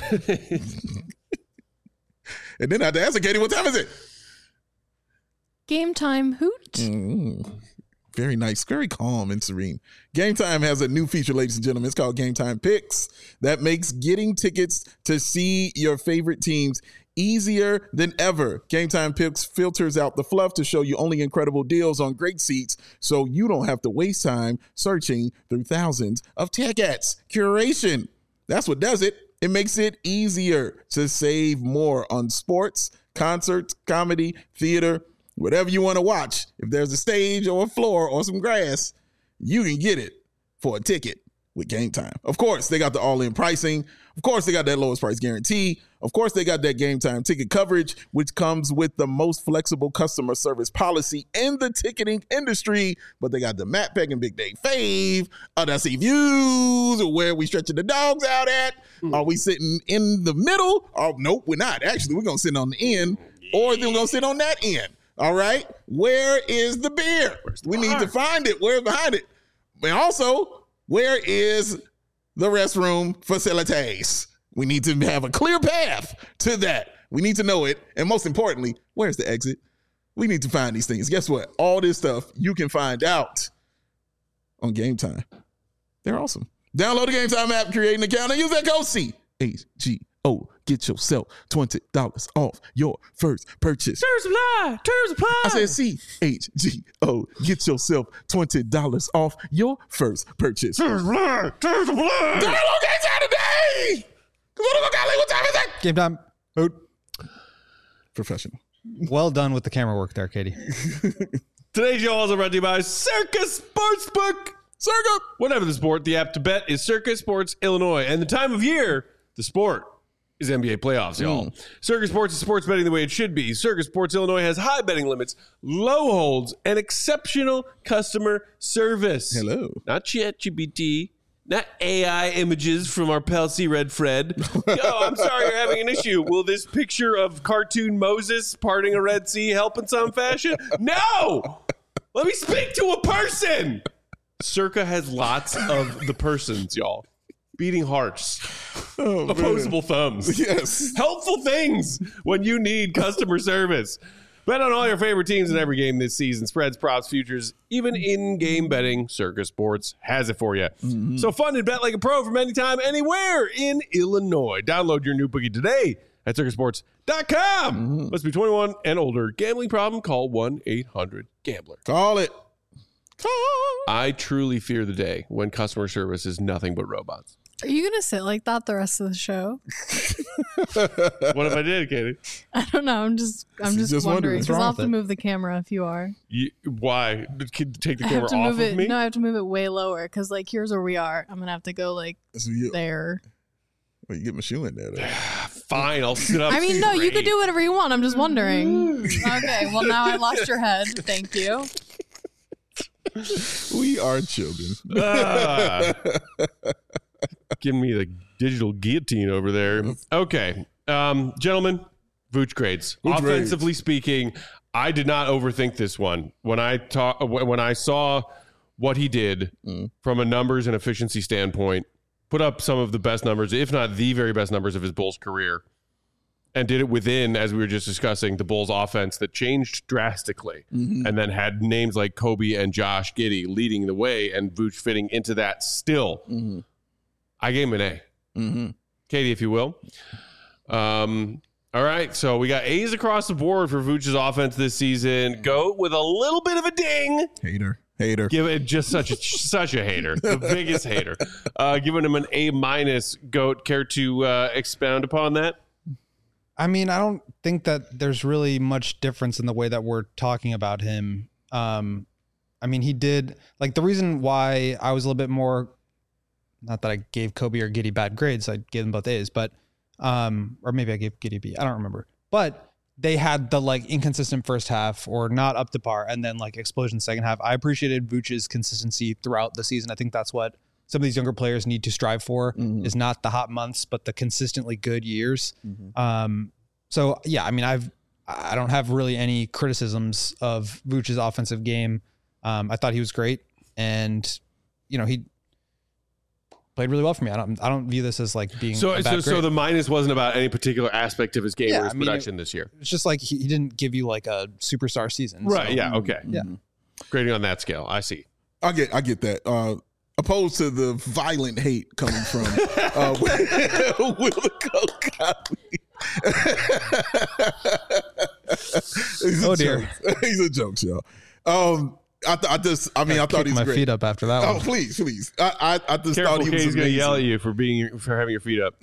And then I have to ask Katie, what time is it? Game time hoot. Mm-hmm. Very nice, very calm and serene. Game Time has a new feature, ladies and gentlemen. It's called Game Time Picks. That makes getting tickets to see your favorite teams easier than ever. Game Time Picks filters out the fluff to show you only incredible deals on great seats, so you don't have to waste time searching through thousands of tickets. Curation. That's what does it. It makes it easier to save more on sports, concerts, comedy, theater, whatever you want to watch. If there's a stage or a floor or some grass, you can get it for a ticket with Game Time. Of course, they got the all-in pricing. Of course, they got that lowest price guarantee. Of course, they got that Game Time ticket coverage, which comes with the most flexible customer service policy in the ticketing industry. But they got the Matt Peck and Big Dave Fave, Under Sea Views, where we stretching the dogs out at. Mm. Are we sitting in the middle? Oh, nope, we're not. Actually, we're going to sit on the end, or then we're going to sit on that end. All right? Where is the beer? The we bar? Need to find it. Where's behind it? And also, where is the restroom facilities? We need to have a clear path to that. We need to know it. And most importantly, where's the exit? We need to find these things. Guess what? All this stuff you can find out on Game Time. They're awesome. Download the Game Time app, create an account, and use that code C H G O. Get yourself twenty dollars off your first purchase. Terms apply. Terms apply. I said C H G O. Get yourself twenty dollars off your first purchase. Terms apply. Terms apply. Download Game Time today. What time is it? Game Time. Boot. Professional. Well done with the camera work there, Katie. Today's show also brought to you by Circus Sportsbook. Circa. Whatever the sport, the app to bet is Circus Sports Illinois. And the time of year, the sport is N B A playoffs, y'all. Mm. Circus Sports is sports betting the way it should be. Circus Sports Illinois has high betting limits, low holds, and exceptional customer service. Hello. Not ChatGPT, not A I images from our pal C Red Fred. Oh, I'm sorry you're having an issue. Will this picture of cartoon Moses parting a Red Sea help in some fashion? No! Let me speak to a person! Circa has lots of the persons, y'all. Beating hearts. Oh, opposable man. Thumbs. Yes. Helpful things when you need customer service. Bet on all your favorite teams in every game this season. Spreads, props, futures, even in-game betting. Circus Sports has it for you. Mm-hmm. So fun and bet like a pro from anytime, anywhere in Illinois. Download your new bookie today at circus sports dot com. Mm-hmm. Must be twenty-one and older. Gambling problem? Call one eight hundred gambler. Call it. Call. I truly fear the day when customer service is nothing but robots. Are you going to sit like that the rest of the show? What if I did, Katie? I don't know. I'm just I'm just, just wondering. Because I'll have to it? move the camera if you are. You, why? Take the I camera have to off move of it, me? No, I have to move it way lower. Because, like, here's where we are. I'm going to have to go, like, so you, there. Well, you get my shoe in there, though. Fine, I'll sit up I mean, straight. no, you could do whatever you want. I'm just wondering. Okay, well, now I lost your head. Thank you. We are children. Ah. Giving me the digital guillotine over there. Okay. Um, gentlemen, Vooch grades. Vooch Offensively grades. speaking, I did not overthink this one. When I ta- when I saw what he did mm. from a numbers and efficiency standpoint, put up some of the best numbers, if not the very best numbers of his Bulls career, and did it within, as we were just discussing, the Bulls offense that changed drastically, mm-hmm. and then had names like Kobe and Josh Giddey leading the way, and Vooch fitting into that still. Mm-hmm. I gave him an A. Mm-hmm. Katie, if you will. Um, all right, so we got A's across the board for Vooch's offense this season. Go with a little bit of a ding. Hater. Hater. Give it just such a such a hater. The biggest hater. Uh, giving him an A minus. Goat, care to uh, expound upon that? I mean, I don't think that there's really much difference in the way that we're talking about him. Um, I mean, he did, like, the reason why I was a little bit more, not that I gave Kobe or Giddey bad grades, I gave them both A's, but, um, or maybe I gave Giddey B, I don't remember. But they had the, like, inconsistent first half or not up to par, and then, like, explosion second half. I appreciated Vooch's consistency throughout the season. I think that's what some of these younger players need to strive for, mm-hmm. is not the hot months, but the consistently good years. Mm-hmm. Um, so yeah, I mean, I've, I don't have really any criticisms of Vooch's offensive game. Um, I thought he was great, and you know, he played really well for me. I don't, I don't view this as like being so. A bad so, grade. so the minus wasn't about any particular aspect of his game Yeah, or his I mean, production it, this year. It's just like he, he didn't give you like a superstar season, right? So, Yeah. Okay. Yeah. Grading on that scale, I see. I get, I get that. Uh, opposed to the violent hate coming from uh, Will Cody. Oh dear, joke. He's a joke, y'all. Um, I, th- I just, I mean, I thought he was my great. feet up after that Oh, one. please, please. I, I, I just Careful, thought he was Katie's going to amazing. yell at you for being for having your feet up.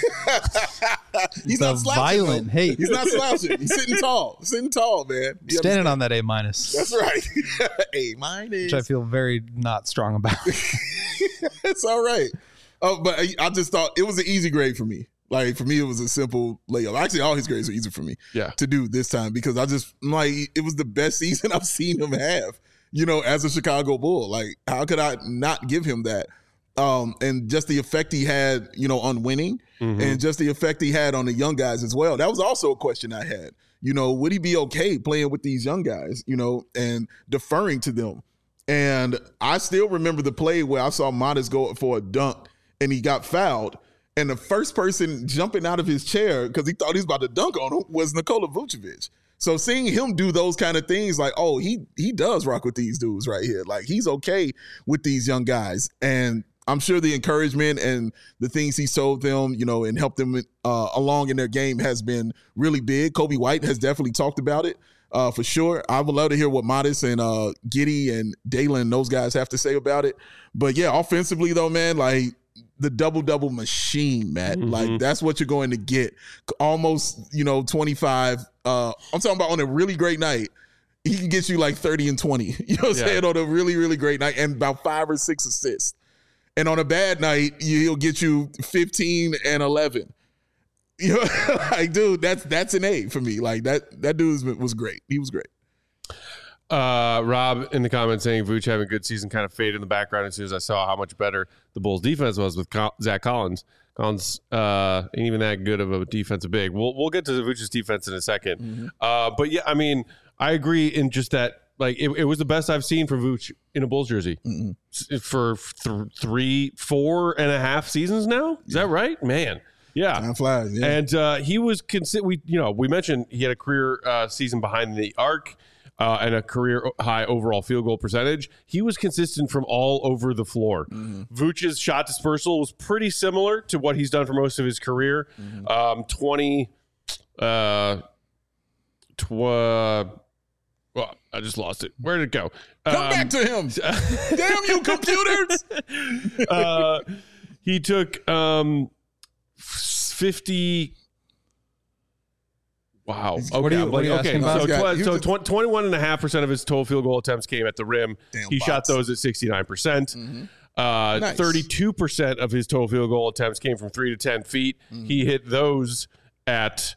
He's The not slouching. violent though. hate. He's not slouching. He's sitting tall. Sitting tall, man. You Standing understand? on that A minus, That's right. A minus. which I feel very not strong about. It's all right. Oh, but I, I just thought it was an easy grade for me. Like for me, it was a simple layup. Actually, all his grades are easy for me Yeah. to do this time because I just like it was the best season I've seen him have. You know, as a Chicago Bull, like how could I not give him that? Um, and just the effect he had, you know, on winning, Mhm. and just the effect he had on the young guys as well. That was also a question I had. You know, would he be okay playing with these young guys? You know, and deferring to them. And I still remember the play where I saw Modest go for a dunk and he got fouled. And the first person jumping out of his chair because he thought he was about to dunk on him was Nikola Vucevic. So seeing him do those kind of things, like, oh, he he does rock with these dudes right here. Like he's okay with these young guys. And I'm sure the encouragement and the things he showed them, you know, and helped them uh, along in their game has been really big. Kobe White has definitely talked about it. Uh, for sure. I would love to hear what Modest and uh, Giddey and Dalen, those guys have to say about it. But yeah, offensively though, man, like the double-double machine, Matt. Mhm. Like that's what you're going to get. Almost, you know, twenty-five. Uh, I'm talking about on a really great night, he can get you like thirty and twenty. You know what I'm Yeah. saying? On a really, really great night and about five or six assists. And on a bad night, he'll get you fifteen and eleven. You know, like, dude, that's that's an A for me. Like that that dude was, was great. He was great. Uh, Rob in the comments saying Vooch having a good season kind of faded in the background as soon as I saw how much better the Bulls defense was with Col- Zach Collins. Collins uh, ain't even that good of a defensive big. We'll we'll get to the Vooch's defense in a second. Mm-hmm. Uh, but yeah, I mean, I agree in just that. Like it, it was the best I've seen from Vooch in a Bulls jersey Mm-mm. S- for th- three, four and a half seasons now. Is that right, man? Yeah. Time flies. Yeah. And uh, he was consi- we you know we mentioned he had a career uh, season behind the arc uh, and a career high overall field goal percentage. He was consistent from all over the floor. Mm-hmm. Vooch's shot dispersal was pretty similar to what he's done for most of his career. Mm-hmm. Um, twenty, uh, tw- well, I just lost it. Where did it go? Come Um, back to him. Damn you, computers. uh, he took um, fifty. Wow. Okay. What are you- I'm what are you like, okay. asking about? So, Yeah, tw- he so was a- tw- twenty-one and a half percent of his total field goal attempts came at the rim. Damn he shot bots. those at sixty-nine percent. Mhm. Uh, Nice. thirty-two percent of his total field goal attempts came from three to ten feet. Mm-hmm. He hit those at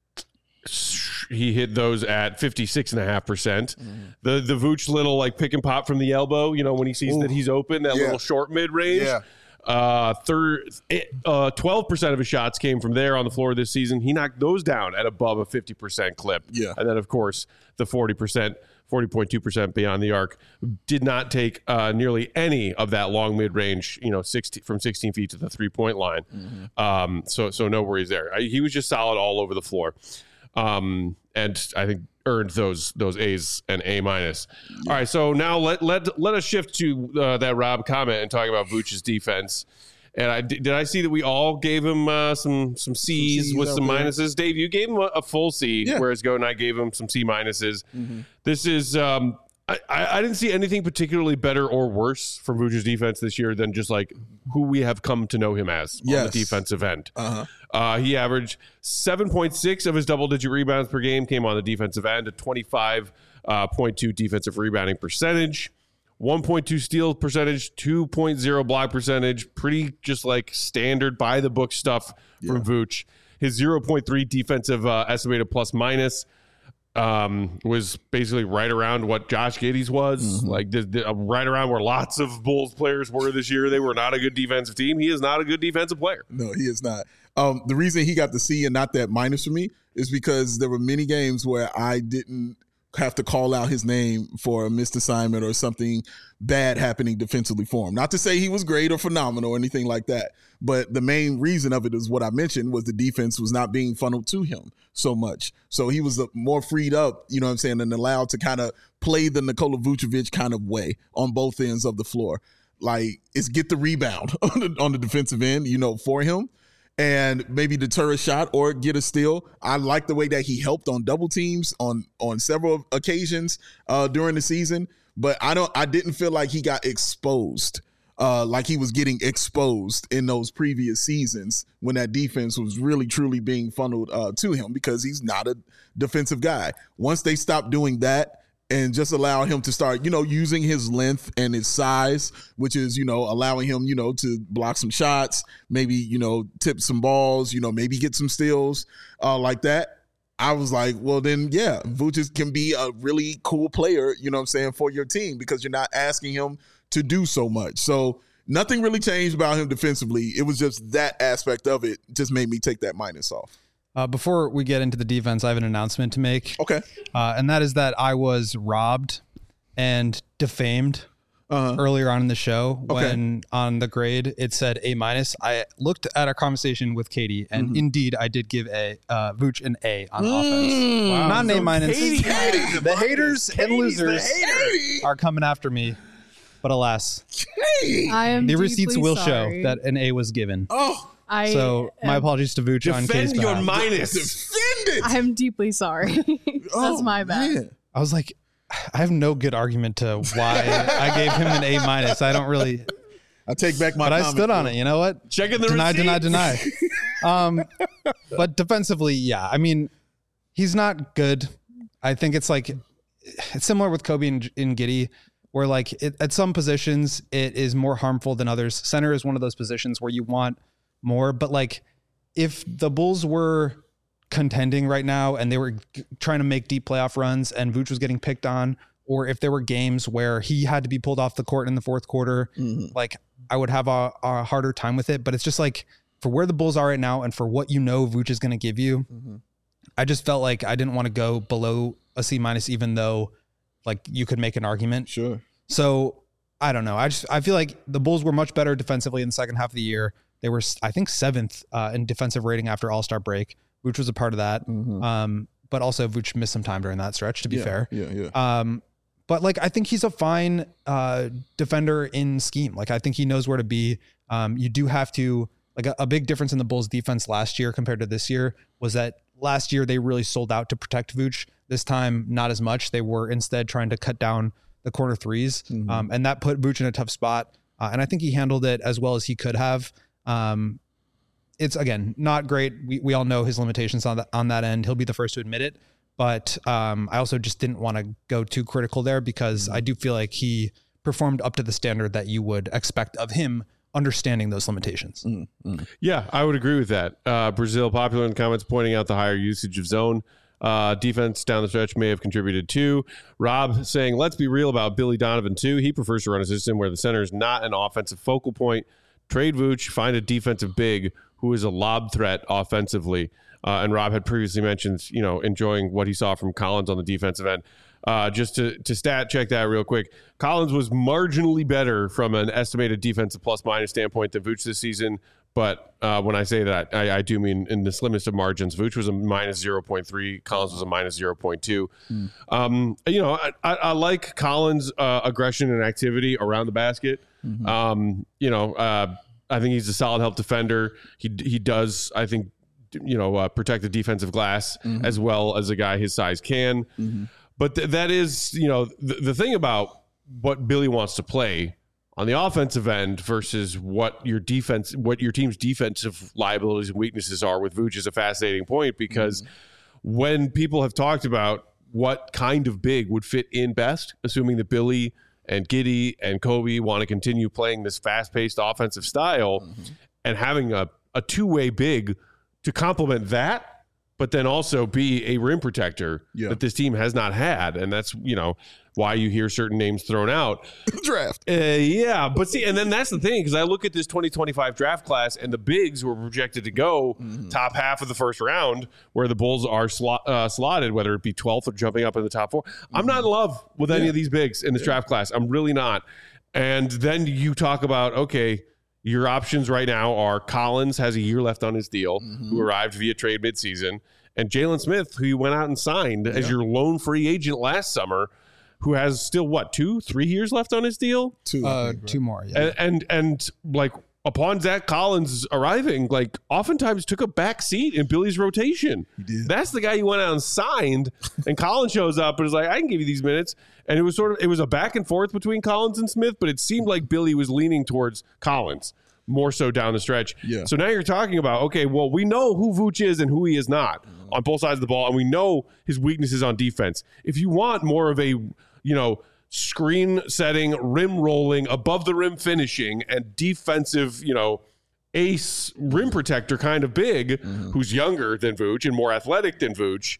he hit those at fifty-six and a half percent. The the Vooch little like pick and pop from the elbow, you know, when he sees Ooh. that he's open, that Yeah. little short mid range. Yeah. Uh, third, uh, twelve percent of his shots came from there on the floor this season. He knocked those down at above a fifty percent clip. Yeah. And then, of course, the forty percent, forty point two percent beyond the arc did not take uh, nearly any of that long mid range, you know, sixteen from sixteen feet to the three point line. Mm-hmm. Um, so, so no worries there. I, he was just solid all over the floor. Um, and I think earned those those A's and A minus. All right, so now let let let us shift to uh, that Rob comment and talk about Vooch's defense. And I did I see that we all gave him uh, some some C's, C's with out some there. minuses. Dave, you gave him a, a full C, Yeah. whereas Go and I gave him some C minuses. This is um, I, I I didn't see anything particularly better or worse from Vooch's defense this year than just like who we have come to know him as on Yes. the defensive end. Uh-huh. Uh, he averaged seven point six of his double-digit rebounds per game came on the defensive end, a twenty-five point two defensive rebounding percentage, one point two steal percentage, two point oh block percentage, pretty just like standard by-the-book stuff from Vooch. His zero point three defensive uh, estimated plus-minus um, was basically right around what Josh Giddey's was, like the, the, uh, right around where lots of Bulls players were this year. They were not a good defensive team. He is not a good defensive player. No, he is not. Um, the reason he got the C and not that minus for me is because there were many games where I didn't have to call out his name for a missed assignment or something bad happening defensively for him. Not to say he was great or phenomenal or anything like that, but the main reason of it is what I mentioned was the defense was not being funneled to him so much. So he was uh, more freed up, you know what I'm saying, and allowed to kind of play the Nikola Vucevic kind of way on both ends of the floor. Like, it's get the rebound on the, on the defensive end, you know, for him, and maybe deter a shot or get a steal. I like the way that he helped on double teams on on several occasions uh, during the season. but I don't. I didn't feel like he got exposed. Uh, like he was getting exposed in those previous seasons when that defense was really truly being funneled uh, to him, because he's not a defensive guy. Once they stopped doing that and just allow him to start, you know, using his length and his size, which is, you know, allowing him, you know, to block some shots, maybe, you know, tip some balls, you know, maybe get some steals uh, like that. I was like, well, then, yeah, Vooch can be a really cool player, you know what I'm saying, for your team, because you're not asking him to do so much. So nothing really changed about him defensively. It was just that aspect of it just made me take that minus off. Uh, before we get into the defense, I have an announcement to make. Okay. Uh, and that is that I was robbed and defamed Uh-huh. earlier on in the show Okay. when on the grade it said A minus. I looked at our conversation with Katie, and Mm-hmm. indeed I did give a uh, Vooch an A on Mm. offense. Wow. Not an A So minus. Katie had Katie, the the minus. haters and Katie's losers the hater. are coming after me, but alas, Hey. I am the deeply receipts will sorry. show that an A was given. Oh, I So my am, apologies to Vooch on Katie's Defend your behalf. minus. defend it. I'm deeply sorry. That's Oh, my bad. man. I was like, I have no good argument to why I gave him an A minus. I don't really, I take back my but I comment, stood on bro. it. You know what? Checking the Deny, receipts. deny, deny. Um, but defensively, yeah. I mean, he's not good. I think it's like it's similar with Kobe and, and Giddey, where like it, at some positions it is more harmful than others. Center is one of those positions where you want more, but like if the Bulls were contending right now and they were g- trying to make deep playoff runs and Vooch was getting picked on, or if there were games where he had to be pulled off the court in the fourth quarter, Mhm. like I would have a, a harder time with it. But it's just like for where the Bulls are right now and for what you know Vooch is going to give you, Mhm. I just felt like I didn't want to go below a C minus, even though like you could make an argument. Sure. So I don't know. I just I feel like the Bulls were much better defensively in the second half of the year. They were, I think, seventh uh, in defensive rating after All-Star break. Vooch was a part of that. Mhm. Um, but also Vooch missed some time during that stretch, to be yeah, fair. Yeah, yeah. Um, but like, I think he's a fine uh, defender in scheme. Like, I think he knows where to be. Um, you do have to, like a, a big difference in the Bulls defense last year compared to this year was that last year they really sold out to protect Vooch. This time, not as much. They were instead trying to cut down the corner threes. Mhm. Um, and that put Vooch in a tough spot. Uh, and I think he handled it as well as he could have. Um, it's again, not great. We, we all know his limitations on that, on that end. He'll be the first to admit it. But um, I also just didn't want to go too critical there because I do feel like he performed up to the standard that you would expect of him, understanding those limitations. Mm, mm. Yeah, I would agree with that. Uh, Brazil, popular in the comments, pointing out the higher usage of zone. Uh, defense down the stretch may have contributed too. Rob saying, let's be real about Billy Donovan too. He prefers to run a system where the center is not an offensive focal point. Trade Vooch, find a defensive big who is a lob threat offensively. Uh, and Rob had previously mentioned, you know, enjoying what he saw from Collins on the defensive end. Uh, just to, to stat check that real quick. Collins was marginally better from an estimated defensive plus minus standpoint than Vooch this season. But uh, when I say that, I, I do mean in the slimmest of margins. Vooch was a minus zero point three. Collins was a minus zero point two. Mm. Um, you know, I, I, I like Collins' uh, aggression and activity around the basket. Mhm. Um, you know, uh, I think he's a solid help defender. He he does, I think, you know, uh, protect the defensive glass Mhm. as well as a guy his size can. Mhm. But th- that is, you know, the, the thing about what Billy wants to play on the offensive end versus what your defense, what your team's defensive liabilities and weaknesses are with Vooch is a fascinating point because Mm-hmm. when people have talked about what kind of big would fit in best, assuming that Billy and Giddey and Kobe want to continue playing this fast-paced offensive style Mm-hmm. and having a, a two-way big to complement that, but then also be a rim protector Yeah. that this team has not had. And that's, you know, why you hear certain names thrown out. Draft. Uh, yeah, but see, and then that's the thing, because I look at this twenty twenty-five draft class and the bigs who are projected to go Mm-hmm. top half of the first round, where the Bulls are slot, uh, slotted, whether it be twelfth or jumping up in the top four. I'm not in love with any Yeah. of these bigs in this draft class. I'm really not. And then you talk about, okay, your options right now are Collins has a year left on his deal, who arrived via trade midseason, and Jalen Smith, who you went out and signed as your lone free agent last summer, who has still what two, three years left on his deal, Two. I Uh, think, right? two more. Yeah. and and, and like upon Zach Collins arriving, like oftentimes took a back seat in Billy's rotation. He did. That's the guy you went out and signed, and Collins shows up and is like, I can give you these minutes. And it was sort of, it was a back and forth between Collins and Smith, but it seemed like Billy was leaning towards Collins more so down the stretch. Yeah. So now you're talking about, okay, well, we know who Vooch is and who he is not mm-hmm. on both sides of the ball, and we know his weaknesses on defense. If you want more of a, you know, screen setting, rim rolling, above the rim finishing, and defensive, you know, ace rim protector kind of big, mm-hmm. who's younger than Vooch and more athletic than Vooch,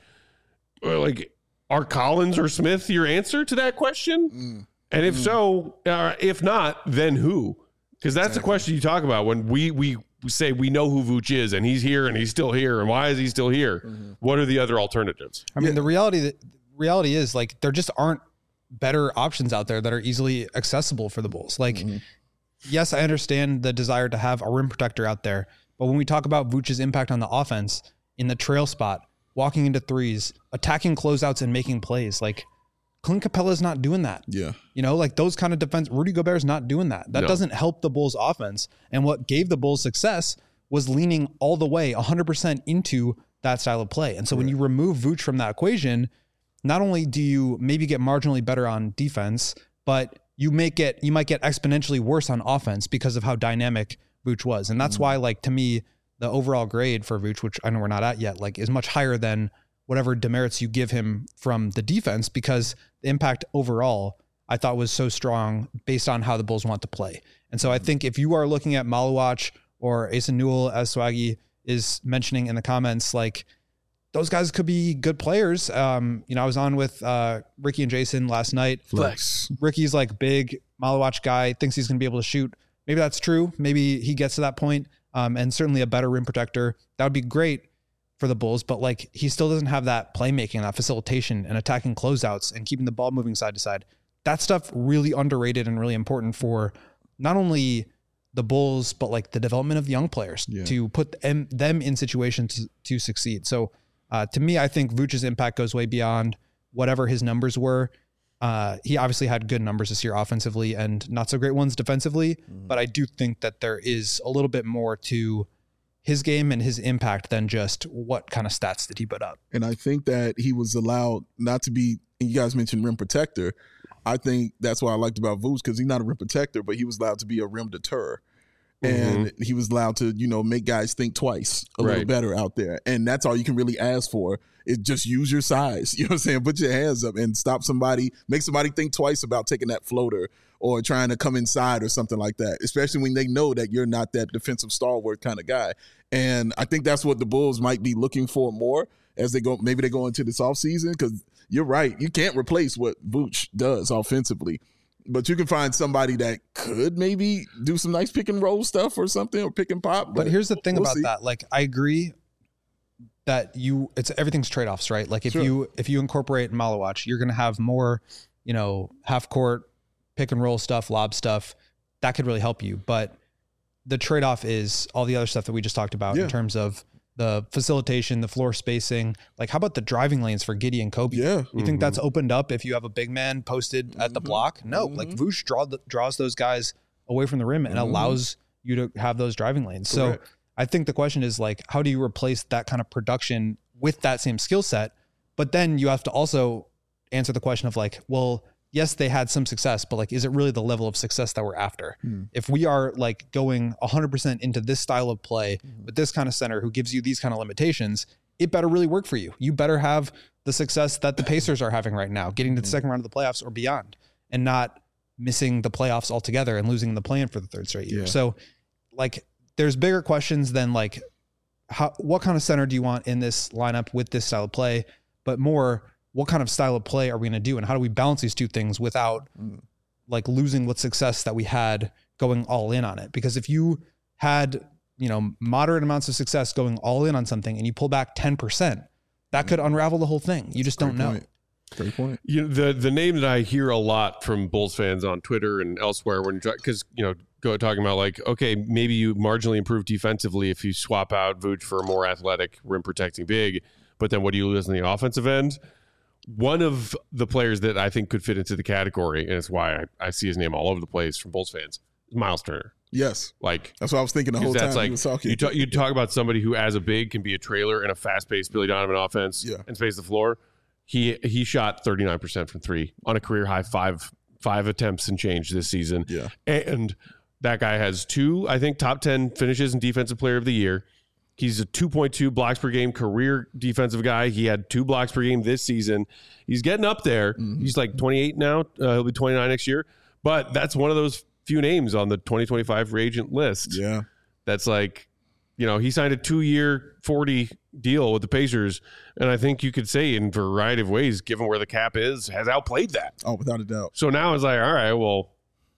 like, are Collins or Smith your answer to that question? Mm. And if mm. so, uh, if not, then who? Because that's exactly. the question you talk about when we we say we know who Vooch is and he's here and he's still here and why is he still here? Mm-hmm. What are the other alternatives? I mean, yeah. the reality that reality is like there just aren't better options out there that are easily accessible for the Bulls. Like, mm-hmm. yes, I understand the desire to have a rim protector out there, but when we talk about Vooch's impact on the offense in the trail spot, walking into threes, attacking closeouts and making plays, like Clint Capella's not doing that. Yeah. You know, like those kind of defense, Rudy Gobert's not doing that. That no. doesn't help the Bulls offense. And what gave the Bulls success was leaning all the way one hundred percent into that style of play. And so right. when you remove Vooch from that equation, not only do you maybe get marginally better on defense, but you make it, you might get exponentially worse on offense because of how dynamic Vooch was. And that's mm-hmm. why, like, to me, the overall grade for Vooch, which I know we're not at yet, like is much higher than whatever demerits you give him from the defense, because the impact overall I thought was so strong based on how the Bulls want to play. And so I think if you are looking at Maluach or Asa Newell, as Swaggy is mentioning in the comments, like those guys could be good players. Um, you know, I was on with uh, Ricky and Jason last night. Flex. Ricky's like big Maluach guy, thinks he's going to be able to shoot. Maybe that's true. Maybe he gets to that point. Um, and certainly a better rim protector. That would be great for the Bulls, but like he still doesn't have that playmaking, that facilitation and attacking closeouts and keeping the ball moving side to side. That stuff really underrated and really important for not only the Bulls, but like the development of young players yeah. to put them, them in situations to, to succeed. So uh, to me, I think Vooch's impact goes way beyond whatever his numbers were. Uh, he obviously had good numbers this year offensively and not so great ones defensively, mm-hmm. but I do think that there is a little bit more to his game and his impact than just what kind of stats did he put up. And I think that he was allowed not to be, and you guys mentioned rim protector. I think that's what I liked about Vooch, because he's not a rim protector, but he was allowed to be a rim deterrer. And mm-hmm. he was allowed to, you know, make guys think twice a right. little better out there. And that's all you can really ask for, is just use your size. You know what I'm saying? Put your hands up and stop somebody, make somebody think twice about taking that floater or trying to come inside or something like that, especially when they know that you're not that defensive stalwart kind of guy. And I think that's what the Bulls might be looking for more as they go, maybe they go into this offseason, because you're right. You can't replace what Vooch does offensively. But you can find somebody that could maybe do some nice pick and roll stuff or something, or pick and pop. But, but here's the thing we'll about see. that. Like, I agree that you, it's everything's trade-offs, right? Like if sure. you, if you incorporate Maluach, you're going to have more, you know, half court pick and roll stuff, lob stuff that could really help you. But the trade-off is all the other stuff that we just talked about yeah. in terms of the facilitation, the floor spacing. Like, how about the driving lanes for Giddey and Kobe? Yeah. You mm-hmm. think that's opened up if you have a big man posted mm-hmm. at the block? No. Mm-hmm. Like, Vooch draw the, draws those guys away from the rim and mm-hmm. allows you to have those driving lanes. Correct. So I think the question is, like, how do you replace that kind of production with that same skill set? But then you have to also answer the question of, like, well, yes, they had some success, but like, is it really the level of success that we're after? Hmm. If we are like going one hundred percent into this style of play mm-hmm. with this kind of center who gives you these kind of limitations, it better really work for you. You better have the success that the Pacers are having right now, getting to the mm-hmm. second round of the playoffs or beyond, and not missing the playoffs altogether and losing the play-in for the third straight year. Yeah. So like, there's bigger questions than like, how, what kind of center do you want in this lineup with this style of play, but more, what kind of style of play are we going to do? And how do we balance these two things without mm. like losing what success that we had going all in on it? Because if you had, you know, moderate amounts of success going all in on something and you pull back ten percent, that could unravel the whole thing. You just don't know. Point. Great point. You know, the, the name that I hear a lot from Bulls fans on Twitter and elsewhere, when, because, you know, go talking about like, okay, maybe you marginally improve defensively if you swap out Vooch for a more athletic rim protecting big, but then what do you lose on the offensive end? One of the players that I think could fit into the category, and it's why I, I see his name all over the place from Bulls fans, is Miles Turner. Yes. Like That's what I was thinking the whole time that's like he was talking. you talk, you talk about somebody who, as a big, can be a trailer in a fast-paced Billy Donovan offense Yeah. and space the floor. He he shot thirty-nine percent from three on a career high five five attempts and change this season. Yeah. And that guy has two, I think, top ten finishes and defensive player of the year. He's a two point two blocks per game career defensive guy. He had two blocks per game this season. He's getting up there. Mm-hmm. He's like twenty-eight now. Uh, he'll be twenty-nine next year. But that's one of those few names on the twenty twenty-five free agent list. Yeah. That's like, you know, he signed a two-year, forty deal with the Pacers, and I think you could say in a variety of ways, given where the cap is, has outplayed that. Oh, without a doubt. So now it's like, all right, well,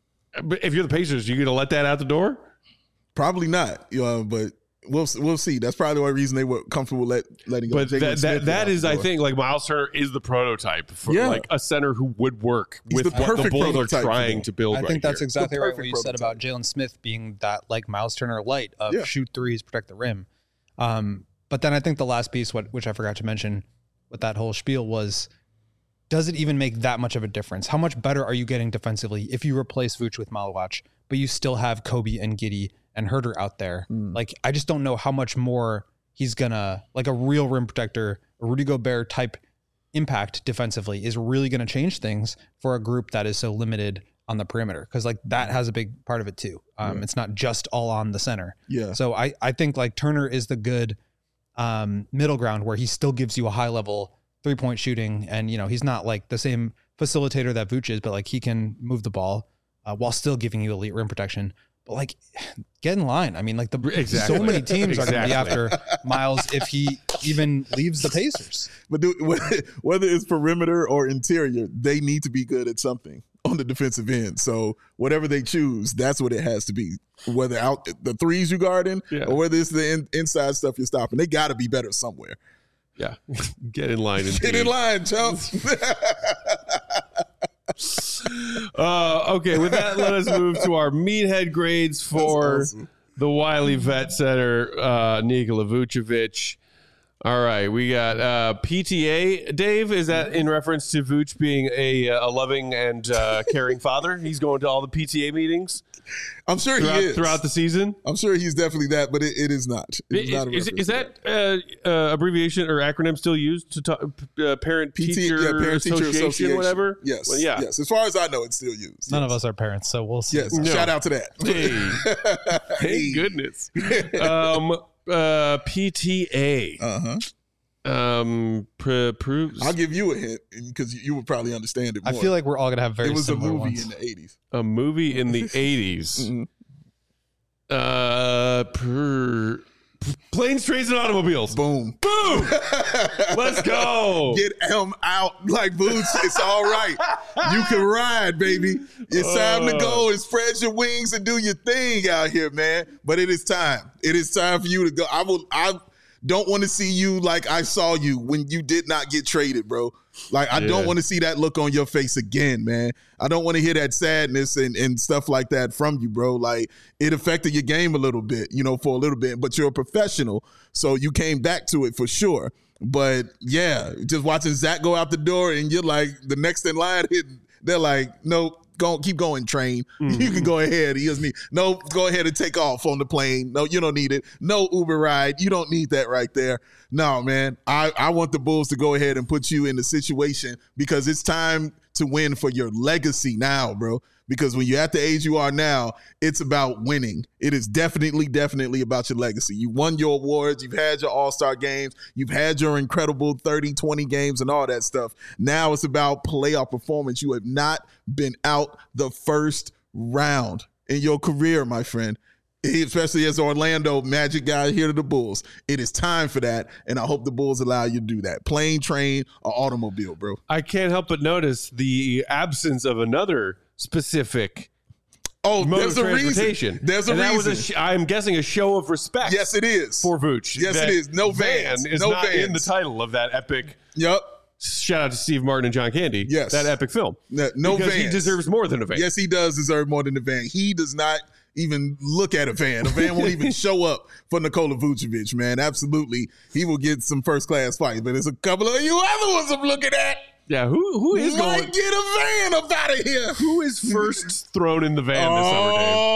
if you're the Pacers, you going to let that out the door? Probably not. You know, but we'll we'll see. That's probably the only reason they were comfortable let, letting go. But Jalen that Smith that, out that the is, I door. think, like Miles Turner is the prototype for Yeah. like a center who would work He's with the what the perfect Bulls are prototype for trying them. to build I right think that's here. exactly The right what perfect you said about prototype. Jalen Smith being that like Miles Turner light of Yeah. shoot threes, protect the rim. Um, but then I think the last piece, what which I forgot to mention with that whole spiel was, does it even make that much of a difference? How much better are you getting defensively if you replace Vooch with Malawach, but you still have Kobe and Giddey and Herter out there? Mm. Like, I just don't know how much more he's gonna, like a real rim protector, a Rudy Gobert type impact defensively is really going to change things for a group that is so limited on the perimeter. Cause like that has a big part of it too. Um, Yeah. It's not just all on the center. Yeah. So I, I think like Turner is the good um, middle ground where he still gives you a high level three point shooting. And, you know, he's not like the same facilitator that Vooch is, but like he can move the ball uh, while still giving you elite rim protection. But like, get in line. I mean, like the Exactly. so many teams are going to be Exactly. after Miles if he even leaves the Pacers. But do, whether it's perimeter or interior, they need to be good at something on the defensive end. So whatever they choose, that's what it has to be. Whether out the threes you guarding Yeah. or whether it's the in, inside stuff you're stopping, they got to be better somewhere. Yeah. Get in line. Get indeed. in line, chumps. Uh, okay, with that, let us move to our meathead grades for That's awesome. the Wiley Vet Center, uh, Nikola Vucevic. All right, we got uh, P T A. Dave, is that in reference to Vooch being a, a loving and uh, caring father? He's going to all the P T A meetings I'm sure throughout, he is. throughout the season. I'm sure he's definitely that, but it, it is not. It's Is, not a is, reference is to that uh, uh, abbreviation or acronym still used to talk, uh, parent P T, teacher yeah, parent teacher association, association, whatever? Yes, Well, yeah. yes. As far as I know, it's still used. None yes. of us are parents, so we'll see. Yes, No. shout out to that. Hey, thank goodness. Um, uh, P T A. Uh huh. Um, pr- proves I'll give you a hint because you, you would probably understand it I more. feel like we're all going to have very it was a similar movie ones. in the eighties. a movie in the eighties. Mhm. Uh, per, planes, trains, and automobiles. Boom. Boom! Let's go. Get him out like boots. It's all right. You can ride, baby. It's time to go and spread your wings and do your thing out here, man. But it is time. It is time for you to go. I will. I don't want to see you like I saw you when you did not get traded, bro. Like I Yeah. don't want to see that look on your face again, man. I don't want to hear that sadness and, and stuff like that from you, bro. Like it affected your game a little bit, you know, for a little bit, but you're a professional. So you came back to it for sure. But yeah, just watching Zach go out the door and you're like the next in line hitting, they're like, nope. Go, keep going, train. Mm-hmm. You can go ahead. He doesn't need. No, go ahead and take off on the plane. No, you don't need it. No Uber ride. You don't need that right there. No, man. I, I want the Bulls to go ahead and put you in the situation because it's time to win for your legacy now, bro. Because when you're at the age you are now, it's about winning. It is definitely, definitely about your legacy. You won your awards. You've had your all-star games. You've had your incredible thirty, twenty games and all that stuff. Now it's about playoff performance. You have not been out the first round in your career, my friend. Especially as Orlando Magic guy here to the Bulls. It is time for that, and I hope the Bulls allow you to do that. Plane, train, or automobile, bro. I can't help but notice the absence of another specific Oh, mode there's of a transportation. reason. There's a and that reason. was a sh- I'm guessing a show of respect. Yes, it is. for Vooch. Yes, That it is. No vans. Van is No not in the vans. title of that epic. Yep. Shout out to Steve Martin and John Candy. Yes. that epic film. No, no because vans. he deserves more than a van. Yes, he does deserve more than a van. He does not even look at a van. A van won't even show up for Nikola Vucevic, man. Absolutely. He will get some first class fights, but there's a couple of you other ones I'm looking at. Yeah, who who is Might going? get a van up out of here. Who is first thrown in the van this summer, Dave? Oh,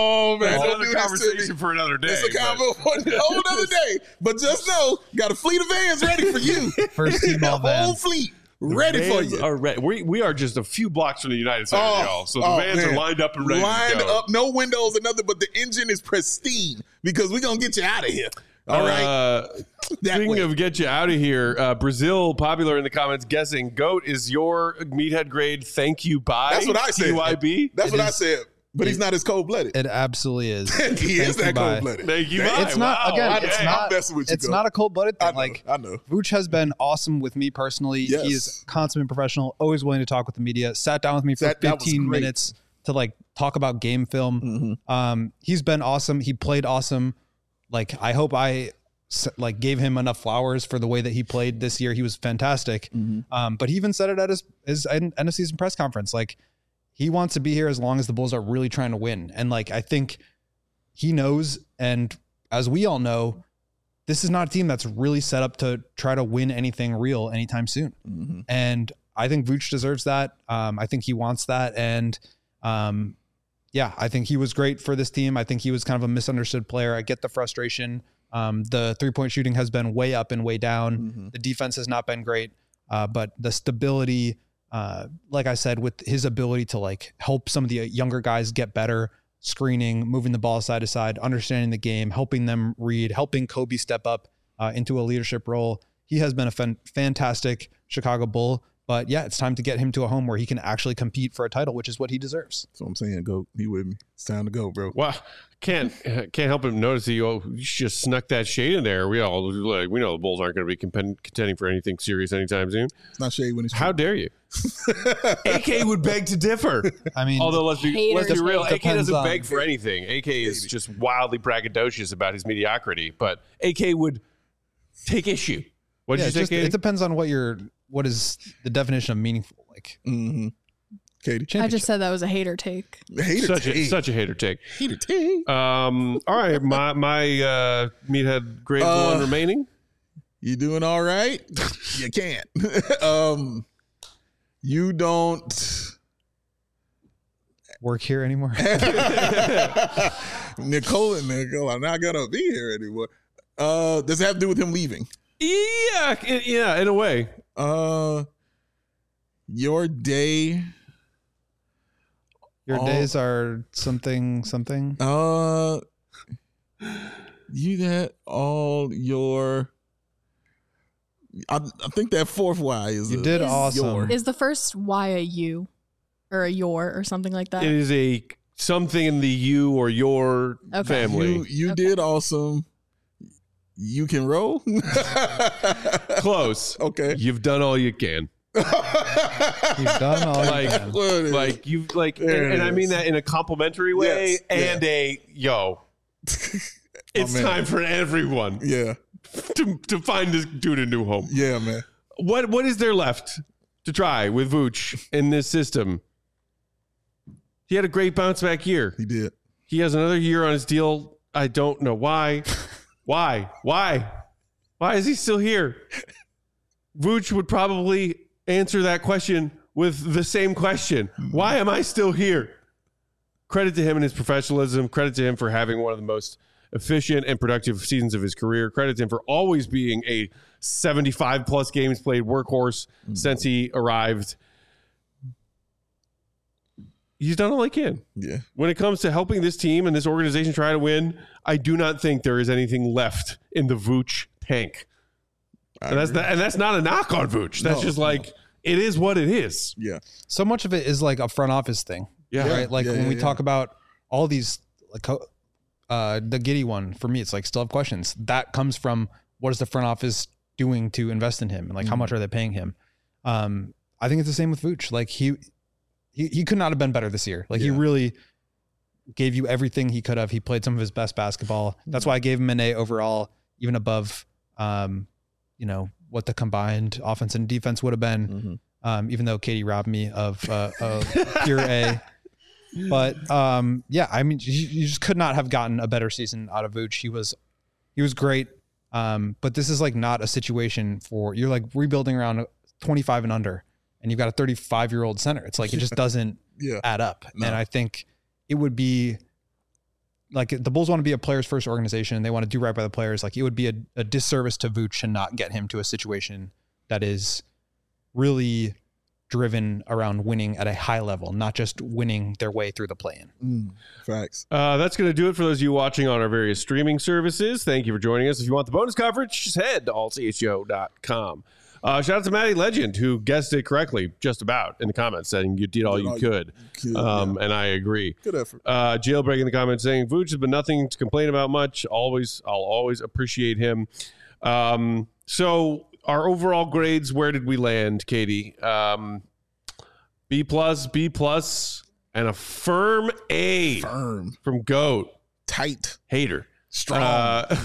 man. That's Don't another do this to conversation me. for another day. It's a but- combo for a whole other day. But just know, got a fleet of vans ready for you. First team A all whole van. fleet ready for Vans you. Are re- we, we are just a few blocks from the United Center, Oh, y'all. So the oh, vans man. are lined up and ready Lined to go. up, no windows or nothing, but the engine is pristine because we're going to get you out of here. All right. Uh, That speaking way. of get you out of here, uh, Brazil, popular in the comments, guessing GOAT is your meathead grade thank you bye. That's what I said. T Y B. That's It what I is- said. But he's not as cold blooded. It absolutely is. He is Thank you, that bye. cold blooded. Thank you bye. It's not Wow, again. okay. It's I'm not. messing with you, It's Go. not a cold blooded thing. I know. Like I know. Vooch has been awesome with me personally. Yes. He is consummate professional, always willing to talk with the media. Sat down with me for That- that was fifteen great. minutes to like talk about game film. Mm-hmm. Um, he's been awesome. He played awesome. Like I hope I s- like gave him enough flowers for the way that he played this year. He was fantastic. Mm-hmm. Um, but he even said it at his his end end of season press conference. Like he wants to be here as long as the Bulls are really trying to win. And like I think he knows, and as we all know, this is not a team that's really set up to try to win anything real anytime soon. Mm-hmm. And I think Vooch deserves that. Um, I think he wants that. And um, yeah, I think he was great for this team. I think he was kind of a misunderstood player. I get the frustration. Um, the three-point shooting has been way up and way down. Mm-hmm. The defense has not been great. Uh, but the stability, uh, like I said, with his ability to like help some of the younger guys get better, screening, moving the ball side to side, understanding the game, helping them read, helping Kobe step up uh, into a leadership role. He has been a fan- fantastic Chicago Bull. But yeah, it's time to get him to a home where he can actually compete for a title, which is what he deserves. That's what I'm saying. Go. He with me. It's time to go, bro. Well, can't can't help but notice that you, you just snuck that shade in there. We all like we know the Bulls aren't going to be compen- contending for anything serious anytime soon. It's not shade when it's How dare you? A K would beg to differ. I mean, Although let's be let's be Haters real, hate. A K Depends doesn't on- beg for anything. A K is just wildly braggadocious about his mediocrity, but A K would take issue. What did yeah, you it, say, just, Katie? it depends on what your what is the definition of meaningful. Like Mm-hmm. Katie. I just said that was a hater take. Hater such a take. such a hater take. Hater take. Um, all right, my my uh, meathead grade Uh, one remaining. You doing all right? You can't. um, you don't. work here anymore. Nicole and Nicole are not gonna be here anymore. Uh, does it have to do with him leaving? Yeah, i- yeah, in a way. Uh, your day. Your All- days are something something. Uh, you got all your. I, I think that fourth Y is. You a- did Is- awesome. your- Is the first Y a U or a your or something like that? It is a something in the you or your Okay. family. You you Okay. did awesome. You can roll. Close. Okay. You've done all you can. You've done all Like- you can. What is it? Like you like, and, There it and I mean is. that in a complimentary way, Yes, yeah. and a yo. It's man. time for everyone yeah, to, to find this dude a new home. yeah, man. What what is there left to try with Vooch in this system? He had a great bounce back year. He did. He has another year on his deal. I don't know why. Why? Why? Why is he still here? Vooch would probably answer that question with the same question. Why am I still here? Credit to him and his professionalism. Credit to him for having one of the most efficient and productive seasons of his career. Credit to him for always being a seventy-five plus games played workhorse since he arrived. He's done all he can. Yeah. When it comes to helping this team and this organization try to win, I do not think there is anything left in the Vooch tank. I And that's agree. not, and that's not a knock on Vooch. That's No, just no. like it is what it is. Yeah. So much of it is like a front office thing. Yeah. Right. Like Yeah, when yeah, we yeah. talk about all these, like uh, the Giddey one for me, it's like still have questions. That comes from what is the front office doing to invest in him, and like how Mhm. much are they paying him? Um, I think it's the same with Vooch. Like he, he, he could not have been better this year. Like he Yeah. really gave you everything he could have. He played some of his best basketball. That's why I gave him an A overall, even above, um, you know, what the combined offense and defense would have been. Mhm. Um, even though Katie robbed me of uh, a pure A. But um, yeah, I mean, you, you just could not have gotten a better season out of Vooch. He was, he was great. Um, but this is like not a situation for you're like rebuilding around twenty-five and under, and you've got a thirty-five year old center. It's like it just doesn't Yeah. add up. No. And I think it would be like the Bulls want to be a players first organization and they want to do right by the players. Like it would be a, a disservice to Vooch to not get him to a situation that is really driven around winning at a high level, not just winning their way through the play-in. Mm, facts. Uh, that's going to do it for those of you watching on our various streaming services. Thank you for joining us. If you want the bonus coverage, just head to all c h o dot com. Uh, shout out to Matty Legend, who guessed it correctly, just about, in the comments, saying you did all you could. could, Um, yeah. And I agree. Good effort. Uh, Jailbreak in the comments saying, Vooch has been nothing to complain about much. Always, I'll always appreciate him. Um, so our overall grades, where did we land, Katie? Um, B plus, B plus, and a firm A Firm. from GOAT. Tight. Hater. Strong. Uh,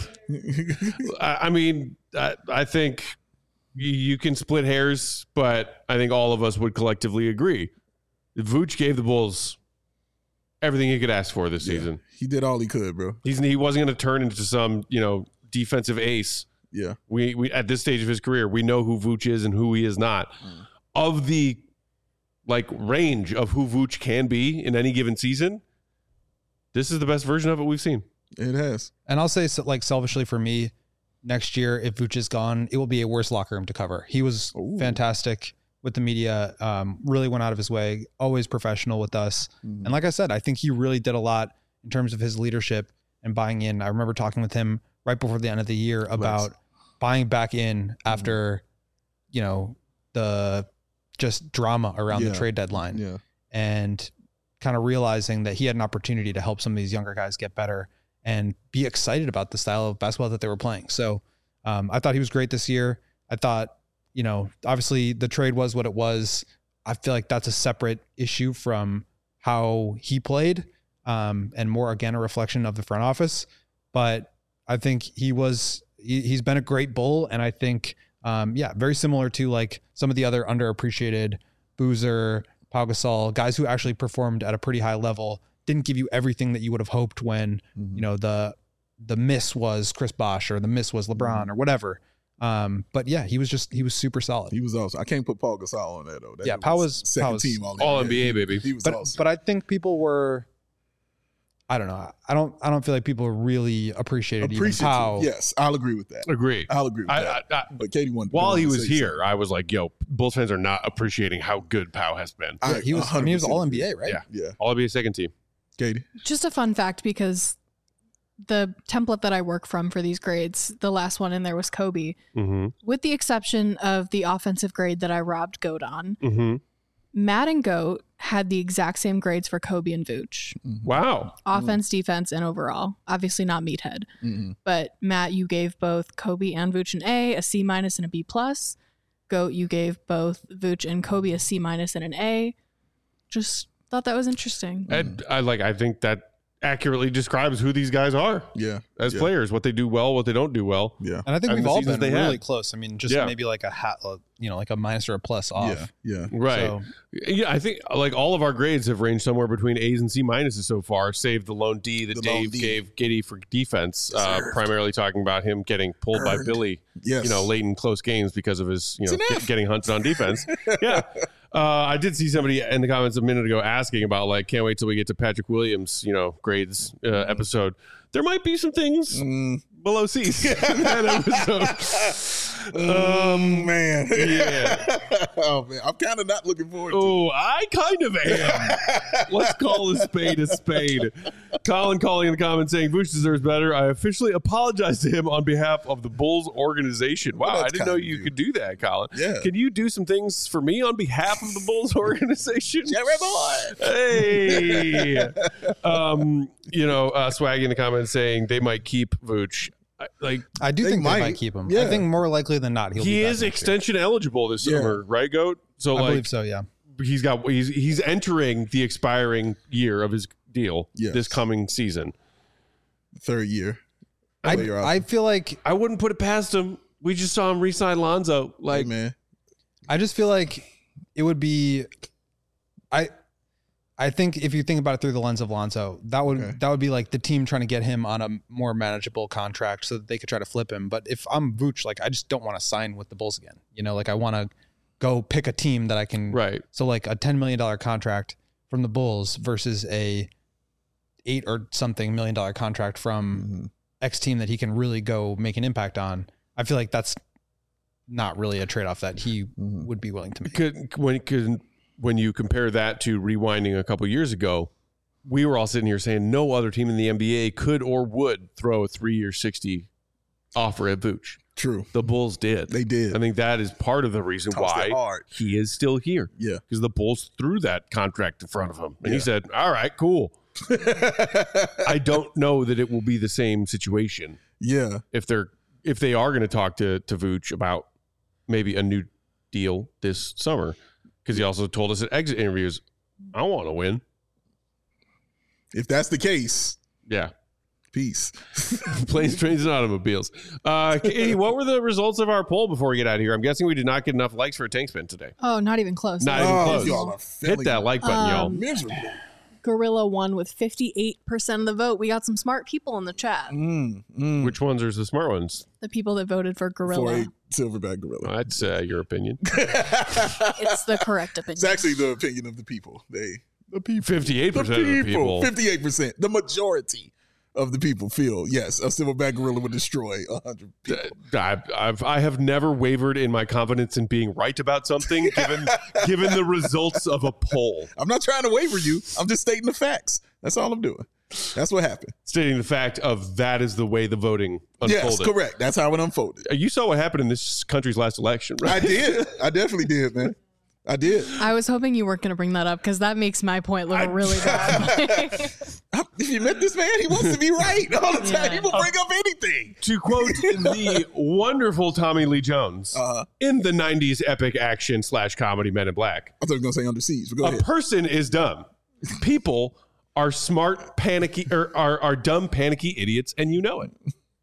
I I mean, I, I think you, you can split hairs, but I think all of us would collectively agree. Vooch gave the Bulls everything he could ask for this Yeah. season. He did all he could, bro. He's he wasn't going to turn into some, you know, defensive ace. Yeah. We we at this stage of his career, we know who Vooch is and who he is not. Mm. Of the like range of who Vooch can be in any given season, this is the best version of it we've seen. It has. And I'll say, so, like, selfishly for me, next year, if Vooch is gone, it will be a worse locker room to cover. He was Ooh. fantastic with the media, um, really went out of his way, always professional with us. Mm. And like I said, I think he really did a lot in terms of his leadership and buying in. I remember talking with him right before the end of the year about buying back in after, you know, the just drama around Yeah. the trade deadline Yeah. and kind of realizing that he had an opportunity to help some of these younger guys get better and be excited about the style of basketball that they were playing. So um, I thought he was great this year. I thought, you know, obviously the trade was what it was. I feel like that's a separate issue from how he played um, and more, again, a reflection of the front office. But I think he was, he, he's been a great Bull. And I think, um, yeah, very similar to like some of the other underappreciated Boozer, Pau Gasol, guys who actually performed at a pretty high level, didn't give you everything that you would have hoped when, Mhm. you know, the, the miss was Chris Bosh or the miss was LeBron or whatever. Um, but yeah, he was just, he was super solid. He was awesome. I can't put Paul Gasol on that though. That Yeah, dude Pau was- second Pau was team all, All N B A, baby. He was But, awesome. but I think people were, I don't know. I don't, I don't feel like people really appreciated even Appreciative. Pau. Yes, I'll agree with that. Agree. I'll agree with I, that. I, I, but Katie won. while he wanted to was say here, I was like, yo, Bulls fans are not appreciating how good Pau has been. something. Yeah, he was, I mean, he was one hundred percent all N B A, agree. right? Yeah. Yeah, All N B A second team. Katie. Just a fun fact, because the template that I work from for these grades, the last one in there was Kobe, Mm-hmm. with the exception of the offensive grade that I robbed Goat on. Mm-hmm. Matt and Goat had the exact same grades for Kobe and Vooch. Wow. Offense, defense, and overall. Obviously not meathead. Mm-hmm. But Matt, you gave both Kobe and Vooch an A, a C minus, and a B plus. Goat, you gave both Vooch and Kobe a C minus and an A. Just thought that was interesting. And I like. I think that accurately describes who these guys are Yeah, as yeah. players. What they do well, what they don't do well. Yeah, And I think And we've the all seasons been they really had. close. I mean, just Yeah. maybe like a hat, you know, like a minus or a plus off. yeah, yeah. Right. So, Yeah, I think like all of our grades have ranged somewhere between A's and C minuses so far, save the lone D that The lone Dave D. gave Giddy for defense, uh, Deserved. primarily talking about him getting pulled by Earned. Billy, Yes, you know, late in close games because of his, you know, It's an get- F. getting hunted on defense. Yeah. Uh, I did see somebody in the comments a minute ago asking about like, can't wait till we get to Patrick Williams, you know, grades uh, episode. There might be some things Mm, below C's in that episode. um, man. yeah. oh man, I'm kind of not looking forward to. Oh, I kind of am. Let's call a spade a spade. Colin calling in the comments saying Vooch deserves better. I officially apologize to him on behalf of the Bulls organization. Wow, Well, I that's didn't know kind of you you. could do that, Colin. Yeah. Can you do some things for me on behalf of the Bulls organization? Jerry boy. Hey. um, you know, uh, Swag in the comments saying they might keep Vooch. I- Like I do They think they might. might keep him. Yeah. I think more likely than not, he'll he be back is next year. extension eligible this Yeah. summer, right, Goat? So I like believe so, yeah. he's got he's he's entering the expiring year of his deal Yes. this coming season. Third year. I, Player option. I feel like I wouldn't put it past him. We just saw him re-sign Lonzo. Like, Hey, man. I just feel like it would be I I think if you think about it through the lens of Lonzo, that would Okay. that would be like the team trying to get him on a more manageable contract so that they could try to flip him. But if I'm Vooch, like I just don't want to sign with the Bulls again. You know, like I want to go pick a team that I can right. so like a ten million dollars contract from the Bulls versus a eight or something million dollar contract from mm-hmm. X team that he can really go make an impact on. I feel like that's not really a trade-off that he mm-hmm. would be willing to make. Could, when, could, when you compare that to rewinding a couple years ago, we were all sitting here saying no other team in the N B A could or would throw a three-year sixty offer at Vooch. True. The Bulls did. They did. I think that is part of the reason Tossed why he is still here. Yeah. Because the Bulls threw that contract in front of him. And yeah. he said, all right, cool. I don't know that it will be the same situation. Yeah. If they're if they are going to talk to, to Vooch about maybe a new deal this summer. Because he also told us at exit interviews, I want to win. If that's the case. Yeah. Peace. Planes, trains, and automobiles. Uh, Katie, what were the results of our poll before we get out of here? I'm guessing we did not get enough likes for a tank spin today. Oh, not even close. Not even oh, close. Y'all are Hit that like button, um, y'all. Miserable. Gorilla won with fifty-eight percent of the vote. We got some smart people in the chat. Mm, mm. Which ones are the smart ones? The people that voted for Gorilla. For a silverback gorilla. Well, that's uh, your opinion. It's the correct opinion. It's actually the opinion of the people. They, the people. fifty-eight percent of the people. fifty-eight percent. The majority of the people feel, yes, a silverback gorilla would destroy one hundred people. I, I've, I have never wavered in my confidence in being right about something given given the results of a poll. I'm not trying to waver you. I'm just stating the facts. That's all I'm doing. That's what happened. Stating the fact of that is the way the voting unfolded. Yes, correct. That's how it unfolded. You saw what happened in this country's last election, right? I did. I definitely did, man. I did. I was hoping you weren't going to bring that up because that makes my point look I, really bad. If you met this man, he wants to be right all the time. Yeah. He will bring up anything. To quote the wonderful Tommy Lee Jones uh-huh. in the nineties epic action slash comedy Men in Black. I thought you were going to say Under Siege, but go a ahead. person is dumb. People are smart, panicky, or are, are dumb, panicky idiots, and you know it.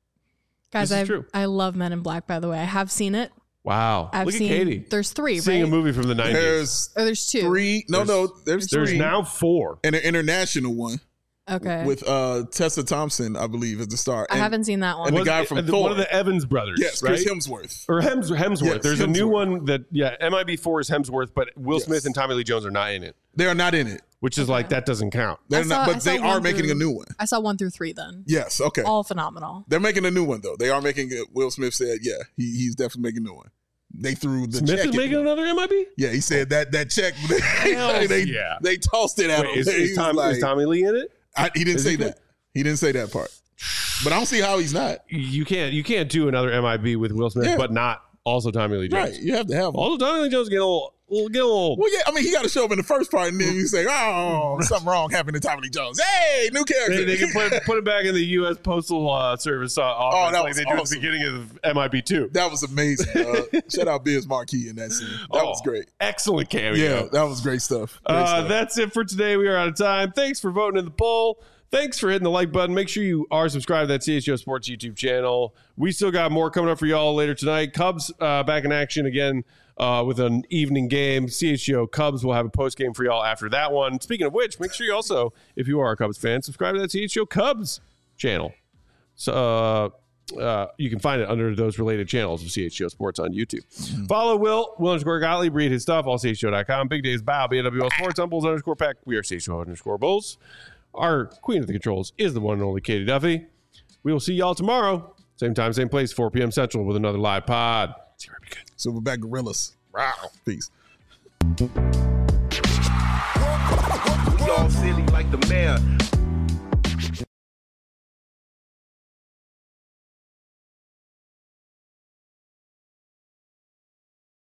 Guys, this is I true. I love Men in Black, by the way. I have seen it. Wow. I've Look seen, at Katie. There's three, Seeing right? a movie from the nineties. There's, oh, there's two. Three. No, there's, no. There's, there's three. now four. And an international one. Okay. With uh, Tessa Thompson, I believe, is the star. I and, haven't seen that one. And the Was guy it- from the- Thor. One of the Evans brothers. Yes, right? Chris Hemsworth. Or Hems, Hemsworth. Yes, There's a new Hemsworth. one that, yeah, M I B four is Hemsworth, but Will Yes. Smith and Tommy Lee Jones are not in it, They are not in it. which is like, that doesn't count. They're I saw- not, I but saw they are one making through- a new one. I saw one through three then. Yes, okay. All phenomenal. They're making a new one, though. They are making it. Will Smith said, yeah, he, he's definitely making a new one. They threw the Smith check is in. making another M I B? Yeah, he said that that check, Hell they, yeah. they tossed it at Wait, him. is, He is, was Tom, like- is Tommy Lee in it? I, he didn't Is say he that. He didn't say that part. But I don't see how he's not. You can't you can't do another M I B with Will Smith, Yeah. but not also Tommy Lee Jones. Right. You have to have him. Also, Tommy Lee Jones get a little, little get a little. Well, yeah, I mean, he got to show up in the first part, and then you say, oh, something wrong happened to Tommy Lee Jones. Hey, new character. They, they can put, put it back in the U S Postal uh, Service uh, office Oh, that like was they do at the awesome. beginning of M I B two. That was amazing. Uh, shout out Biz Marquis in that scene. That was Oh, great. Excellent cameo. Yeah, that was great stuff. Great Uh, stuff. that's it for today. We are out of time. Thanks for voting in the poll. Thanks for hitting the like button. Make sure you are subscribed to that C H G O Sports YouTube channel. We still got more coming up for y'all later tonight. Cubs uh, back in action again uh, with an evening game. C H G O Cubs will have a post game for y'all after that one. Speaking of which, make sure you also, if you are a Cubs fan, subscribe to that C H G O Cubs channel. So uh, uh, you can find it under those related channels of C H G O Sports on YouTube. Mm-hmm. Follow Will, Will underscore Gottlieb, read his stuff, all C H G O dot com. Big Days Bow, B N W L Sports, on Bulls underscore Peck. We are C H G O underscore Bulls. Our queen of the controls is the one and only Katie Duffy. We will see y'all tomorrow. Same time, same place, four p.m. Central with another live pod. See you right good. Silverback Gorillas. Wow. Peace. We all silly like the mayor.